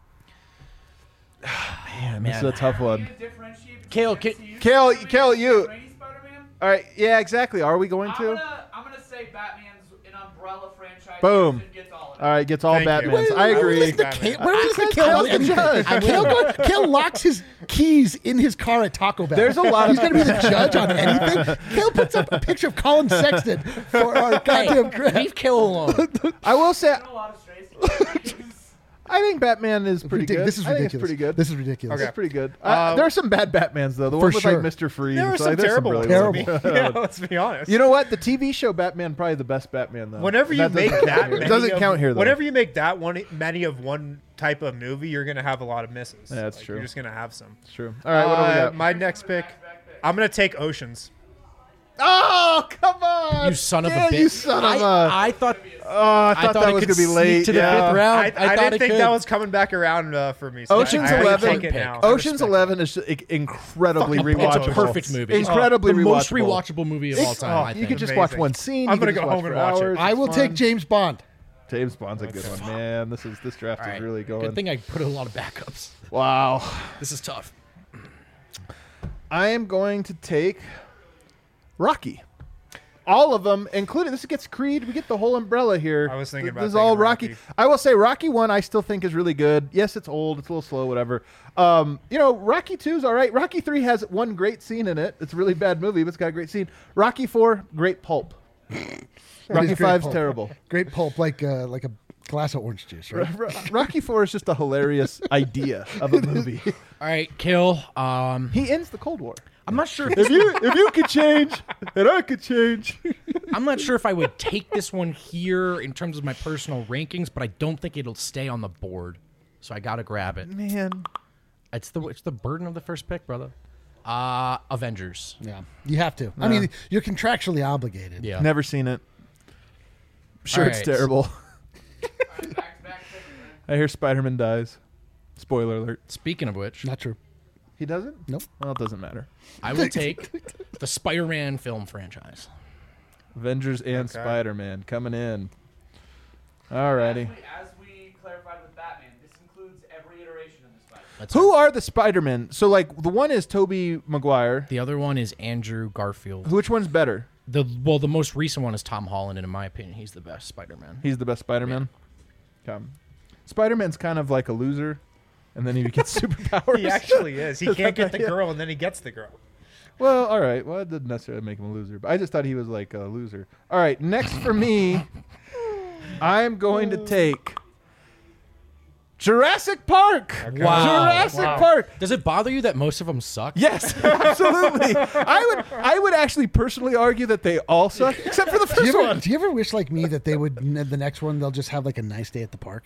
Man, this is a tough Are one. you gonna differentiate between Kale, M Ka- C U Kale, Spider-Man Kale, and you- Raimi Spider-Man? All right. Yeah, exactly. Are we going I'm to? gonna, I'm gonna say Batman's an umbrella franchise. Boom. and gets all of it. All right, gets all Thank you. Batmans. Wait, I wait, agree. wait, The Batman. Kale, where is the Because Kale? Kyle's the anything? judge. Kale, go, Kale locks his keys in his car at Taco Bell. There's a lot He's of- going to be the judge on anything. Kale puts up a picture of Colin Sexton for our goddamn Hey, grant. leave Kale alone. I will say, There's a lot of strays. I think Batman is pretty good. This is I think ridiculous. it's pretty good. This is ridiculous. It's pretty good. Uh, Uh, there are some bad Batmans though. The For one with sure. like Mister Freeze. There are Like, some there's terrible ones. brilliant Let's ones. be- yeah, let's be honest. You know what? The T V show Batman probably the best Batman though. Whenever you That make doesn't that count here. many It doesn't of, count here though. Whenever you make that one many of one type of movie, you're gonna have a lot of misses. Yeah, that's Like, true. You're just gonna have some. It's true. All right, what do we Uh, got? my next pick, I'm gonna take Oceans. Oh, come on! You son of Yeah, a bitch. You son of I, a. I thought. I thought, that it was could gonna be sneak late. to the yeah. fifth round. I, I, I, thought didn't it think could. that was coming back around uh, for me. So Ocean's I, I Eleven. Take it now. Ocean's respect Eleven is just, like, incredibly Fucking- rewatchable. It's a perfect movie. It's Incredibly the most rewatchable. rewatchable movie of all time. oh, I You think. could just watch Amazing. one scene. I'm you could gonna just go watch home and for watch it. hours. I It's will fun. take James Bond. James Bond's a good one, man. This is this draft All is right. really going. Good thing I put a lot of backups. Wow. This is tough. I am going to take Rocky. All of them, including this gets Creed. We get the whole umbrella here. I was thinking Th- about this is taking all Rocky. Rocky. I will say Rocky one. I still think is really good. Yes, it's old. It's a little slow. Whatever. Um, you know, Rocky two is all right. Rocky three has one great scene in it. It's a really bad movie, but it's got a great scene. Rocky four, great pulp. Rocky great five's pulp. terrible. Great pulp, like uh, like a glass of orange juice, right? Ro- Rocky four is just a hilarious idea of a movie. All right, Kill. Um, He ends the Cold War. I'm not sure. If If you if you could change, and I could change. I'm not sure if I would take this one here in terms of my personal rankings, but I don't think it'll stay on the board. So I gotta grab it. Man, It's the it's the burden of the first pick, brother. Uh Avengers. Yeah, you have to. I mean, you're contractually obligated. Yeah. never seen it. Sure, All it's right. terrible. Back to back picks, man. I hear Spider-Man dies. Spoiler alert. Speaking of which, Not true. He doesn't? Nope. Well, it doesn't matter. I will take the Spider-Man film franchise. Avengers and Okay. Spider-Man coming in. Alrighty. As we, as we clarified with Batman, this includes every iteration of the Spider. That's Who it. are the Spider-Men? So, like, the one is Tobey Maguire. The other one is Andrew Garfield. Which one's better? The well, the most recent one is Tom Holland, and in my opinion, he's the best Spider-Man. He's the best Spider-Man? Come. Spider-Man's kind of like a loser, and then he gets superpowers. He actually is. He can't get the girl, and then he gets the girl. Well, all right. Well, it didn't necessarily make him a loser, but I just thought he was like a loser. All right, next for me, I'm going to take Jurassic Park. Wow. Jurassic Wow. Park. Does it bother you that most of them suck? Yes, absolutely. I would I would actually personally argue that they all suck, except for the Do you, first ever, one. do you ever wish, like me, that they would n- the next one they'll just have like a nice day at the park?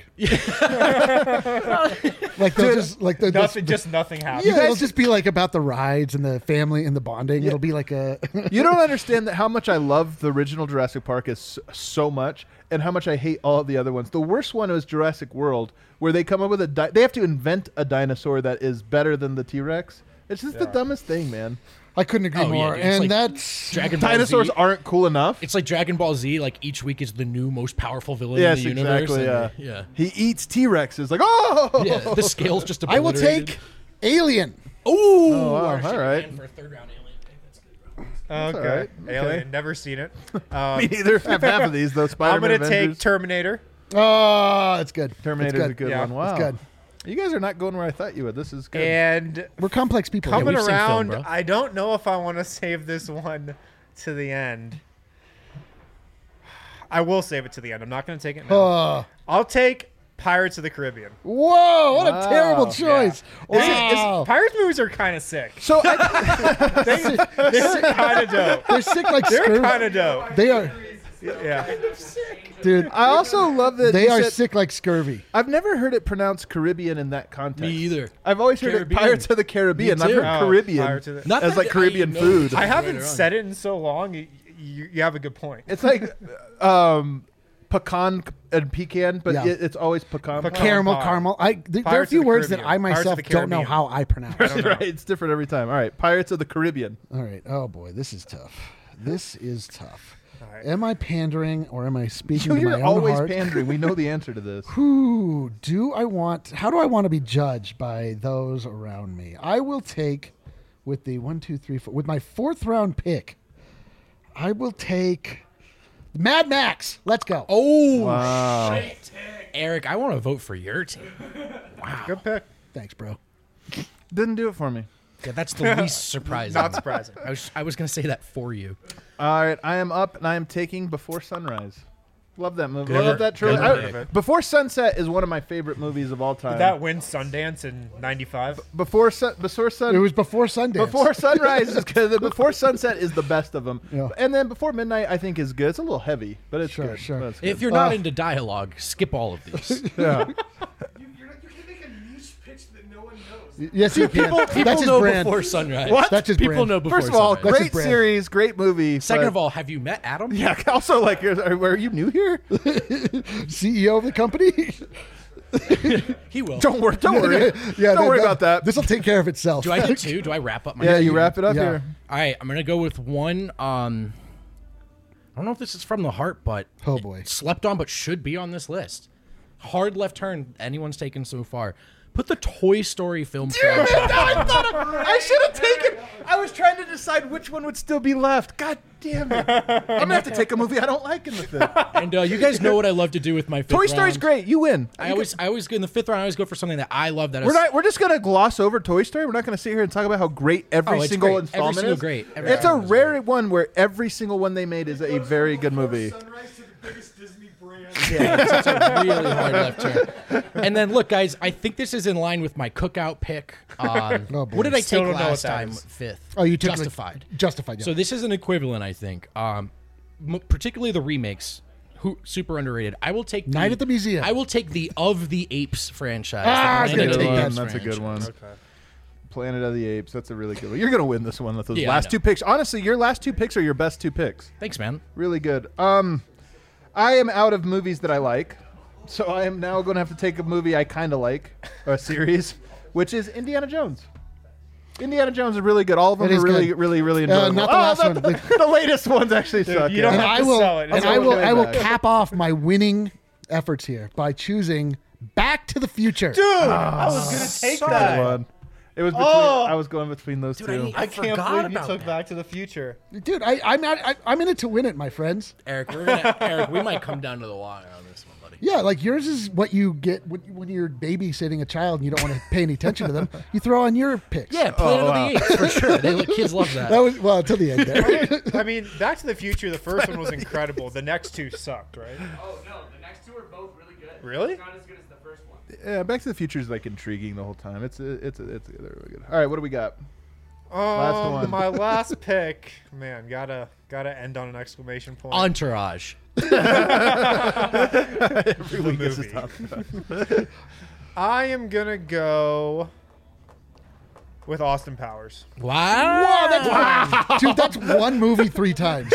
Like they'll just like they'll Nothing, just, just nothing happens. yeah, guys it'll just be like about the rides and the family and the bonding. It'll be like a You don't understand that how much I love the original Jurassic Park is so, so much, and how much I hate all of the other ones. The worst one was Jurassic World, where they come up with a di- they have to invent a dinosaur that is better than the T-Rex. It's just the Yeah. dumbest thing, man. I couldn't agree Oh, yeah, more. dude. It's and like that's Dragon Ball Dinosaurs Z. aren't cool enough. It's like Dragon Ball Z. Like each week is the new most powerful villain Yes, in the universe. exactly. Yeah. and, yeah. He eats T-Rexes. Like, oh, Yeah, the scale's just I will obliterated. take Alien. Ooh, Oh, wow, our shit all right. man for a third round alien pick. That's good, bro. Okay. all right. Alien. Okay. Never seen it. Um, Me neither. I have half of these though. I'm Spider-Man, gonna take Avengers. Terminator. Oh, it's good. Terminator's It's a good Yeah, one. Wow, It's good. You guys are not going where I thought you would. This is good. And We're complex people. coming we've seen film, around, bro. I don't know if I want to save this one to the end. I will save it to the end. I'm not going to take it now. Oh, I'll take Pirates of the Caribbean. whoa! What Wow. a terrible choice. This is- Wow. this- Pirates movies are kind of sick. so I, They're kind of dope. They're sick like They're scurvy. kind of dope. They are, Yeah. dude. I also love that They you are said- sick like scurvy. I've never heard it pronounced Caribbean in that context. Me either. I've always heard Caribbean. it Pirates of the Caribbean. Me I've too. heard Oh, Caribbean Pirates of the- Not as that like I Caribbean know food. the- I haven't Right on. said it in so long. You, you, you have a good point. It's like um, pecan and pecan, but Yeah. it, it's always pecan. Pecan. Caramel, pie. caramel. I th- there are a Pirates of few the words that Caribbean. I Pirates of myself the don't know Caribbean. how I pronounce. don't know. right, it's different every time. All right, Pirates of the Caribbean. All right. Oh boy, this is tough. This is tough. All right. Am I pandering or am I speaking to You're my own always heart? pandering. We know the answer to this. Who do I want? How do I want to be judged by those around me? I will take with the one, two, three, four. With my fourth round pick, I will take Mad Max. Let's go. Oh, Wow. Eric, I want to vote for your team. Good pick. Thanks, bro. Didn't do it for me. Yeah, that's the least surprising. Not surprising. I was I was gonna say that for you. All right, I am up and I am taking Before Sunrise. Love that movie. Good. Love that trilogy. Good I- pick. Before Sunset is one of my favorite movies of all time. Did that win Sundance in ninety-five? Before sun, Before Sun, It was before Sundance. Before Sunrise is good. Before Sunset is the best of them. Yeah. And then Before Midnight, I think is good. It's a little heavy, but it's Sure, good. sure. But it's good. If you're not Uh, into dialogue, skip all of these. yeah. You, you're, you can make a niche pitch that no one knows. Yes, you can. People, people That's his know brand. before sunrise. What? That's his People brand. know before First of all, sunrise. That's his great brand. series, great movie. Second but- of all, have you met Adam? yeah. Also, like, are, are you new here? C E O of the company. He will. Don't worry. Don't worry. yeah, don't worry about that. This will take care of itself. Do I get two? Do I wrap up my? yeah, you wrap it up Yeah. here. All right, I'm gonna go with one. Um, I don't know if this is from the heart, but Oh, boy. it slept on, but should be on this list. Hard left turn anyone's taken so far. Put the Toy Story film franchise. I thought of, I should have taken. I was trying to decide which one would still be left. God damn it! I'm gonna have to take a movie I don't like in the fifth. And uh, you guys know what I love to do with my fifth Toy Story's round. great. You win. I always, I always in the fifth round. I always go for something that I love. That We're is, not. We're just gonna gloss over Toy Story. We're not gonna sit here and talk about how great every Oh, it's single great. Every installment single is. great. Every It's a single is rare one where every single one they made is a very good movie. Sunrise to the biggest Disney brand. Yeah, it's a really hard left turn. And then look, guys, I think this is in line with my cookout pick. Um, Oh, boy. what did I Still take don't know what last that time? is. Fifth. Oh, you took like- Justified. Justified. Yeah. So this is an equivalent, I think. Um, m- particularly the remakes, who super underrated. I will take Night the, at the Museum. I will take the Of the Apes franchise. Ah, I was the gonna Planet take of the that. Apes That's a good franchise. one. Planet of the Apes. That's a really good one. You're gonna win this one with those Yeah, I last know. two picks. Honestly, your last two picks are your best two picks. Thanks, man. Really good. Um, I am out of movies that I like, so I am now going to have to take a movie I kind of like, or a series, which is Indiana Jones. Indiana Jones is really good. All of them It is are really, good. really, really Uh, enjoyable. not the Oh, last the, one. The, the latest ones actually suck. you don't yeah. and have I to will, sell it. and It's I all will, way I will back. cap off my winning efforts here by choosing Back to the Future. Dude, I was gonna take Good that. one. It was between. Oh. I was going between those I two. need- I, I can't forgot believe you about took that. Back to the Future. Dude, I, I'm not, I, I'm in it to win it, my friends. Eric, we're gonna, Eric, we might come down to the wire on this one, buddy. Yeah, like yours is what you get when, when you're babysitting a child and you don't want to pay any attention to them. You throw on your picks. Yeah, Planet Oh, of wow. the Apes for sure. They, kids love that. That was, well, until the end there. I mean, Back to the Future, the first one was incredible. The next two sucked, right? Oh no, the next two are both really good. Really? It's not as good as the first one. Yeah, Back to the Future is like intriguing the whole time. It's it's it's they're really good. All right, what do we got? Um, Last one. My last pick, man, gotta gotta end on an exclamation point. Entourage. Every week this is movie. tough. I am gonna go with Austin Powers. Wow. Wow, that's, dude, that's one movie three times.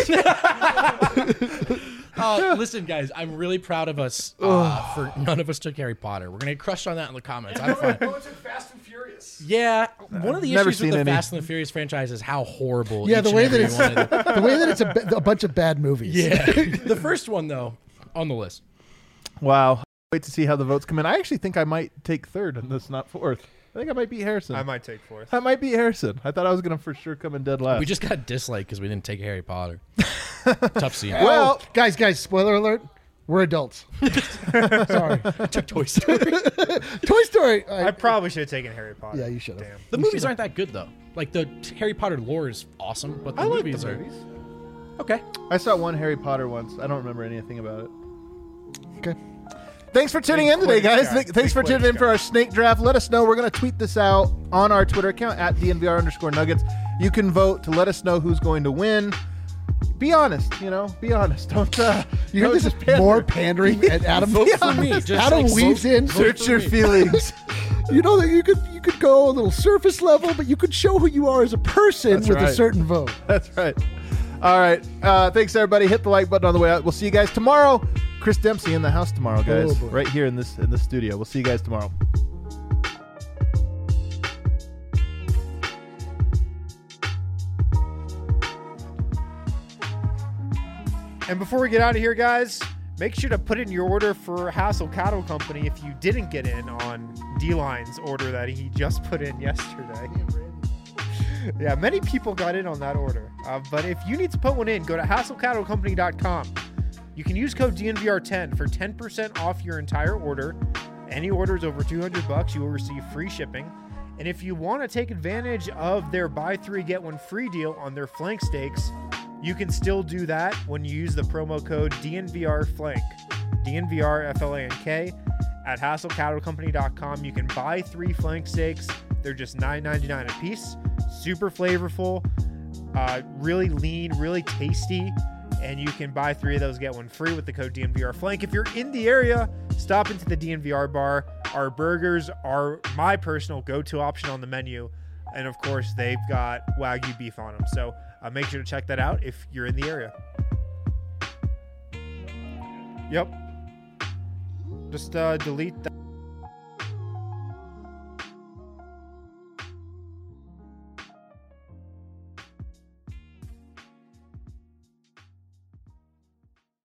Uh, listen, guys, I'm really proud of us uh, for none of us took Harry Potter. We're gonna get crushed on that in the comments. I'm fine. Oh, it's in Fast and Furious. Yeah, one of the never issues with seen the any. Fast and the Furious franchise is how horrible. Yeah, each the and way that every it's one of them- the way that it's a, ba- a bunch of bad movies. Yeah, the first one though on the list. Wow. Wait to see how the votes come in. I actually think I might take third in this, not fourth. I think I might beat Harrison. I might take fourth. I might beat Harrison. I thought I was gonna for sure come in dead last. We just got disliked because we didn't take Harry Potter. Tough scene. Well- Oh, guys, guys, spoiler alert. We're adults. Sorry. took Toy Story. Toy Story. I, I probably should have taken Harry Potter. Yeah, you should have. Damn. The movies aren't that good though. Like the Harry Potter lore is awesome, but the I like movies the are movies. okay. I saw one Harry Potter once. I don't remember anything about it. Okay. Thanks for tuning Big in today, Quidditch guys. guy. Th- Thanks Big for tuning in Quidditch for guy. our snake draft. Let us know. We're going to tweet this out on our Twitter account at D N V R underscore nuggets. You can vote to let us know who's going to win. Be honest, you know. Be honest. Don't. Uh, You hear don't this just is pander. more pandering at Adam. Vote for me. Just Adam like, weaves vote- in. vote Search your for me. feelings. You know that you could you could go a little surface level, but you could show who you are as a person That's with a right. certain vote. That's right. All right. Uh, thanks, everybody. Hit the like button on the way out. We'll see you guys tomorrow. Chris Dempsey in the house tomorrow, guys. Oh, boy. right here in this in the studio. We'll see you guys tomorrow. And before we get out of here, guys, make sure to put in your order for Hassel Cattle Company if you didn't get in on D-Line's order that he just put in yesterday. Yeah, many people got in on that order. Uh, but if you need to put one in, go to hassel cattle company dot com. You can use code D N V R ten for ten percent off your entire order. Any orders over two hundred bucks, you will receive free shipping. And if you want to take advantage of their buy three, get one free deal on their flank steaks, you can still do that when you use the promo code D N V R flank, D N V R F L A N K, at hassel cattle company dot com. You can buy three flank steaks. They're just nine ninety-nine a piece. Super flavorful, uh, really lean, really tasty. And you can buy three of those, get one free with the code D N V R flank. If you're in the area, stop into the D N V R bar. Our burgers are my personal go-to option on the menu. And of course, they've got Wagyu beef on them. So uh, make sure to check that out if you're in the area. Yep. Just uh, delete that.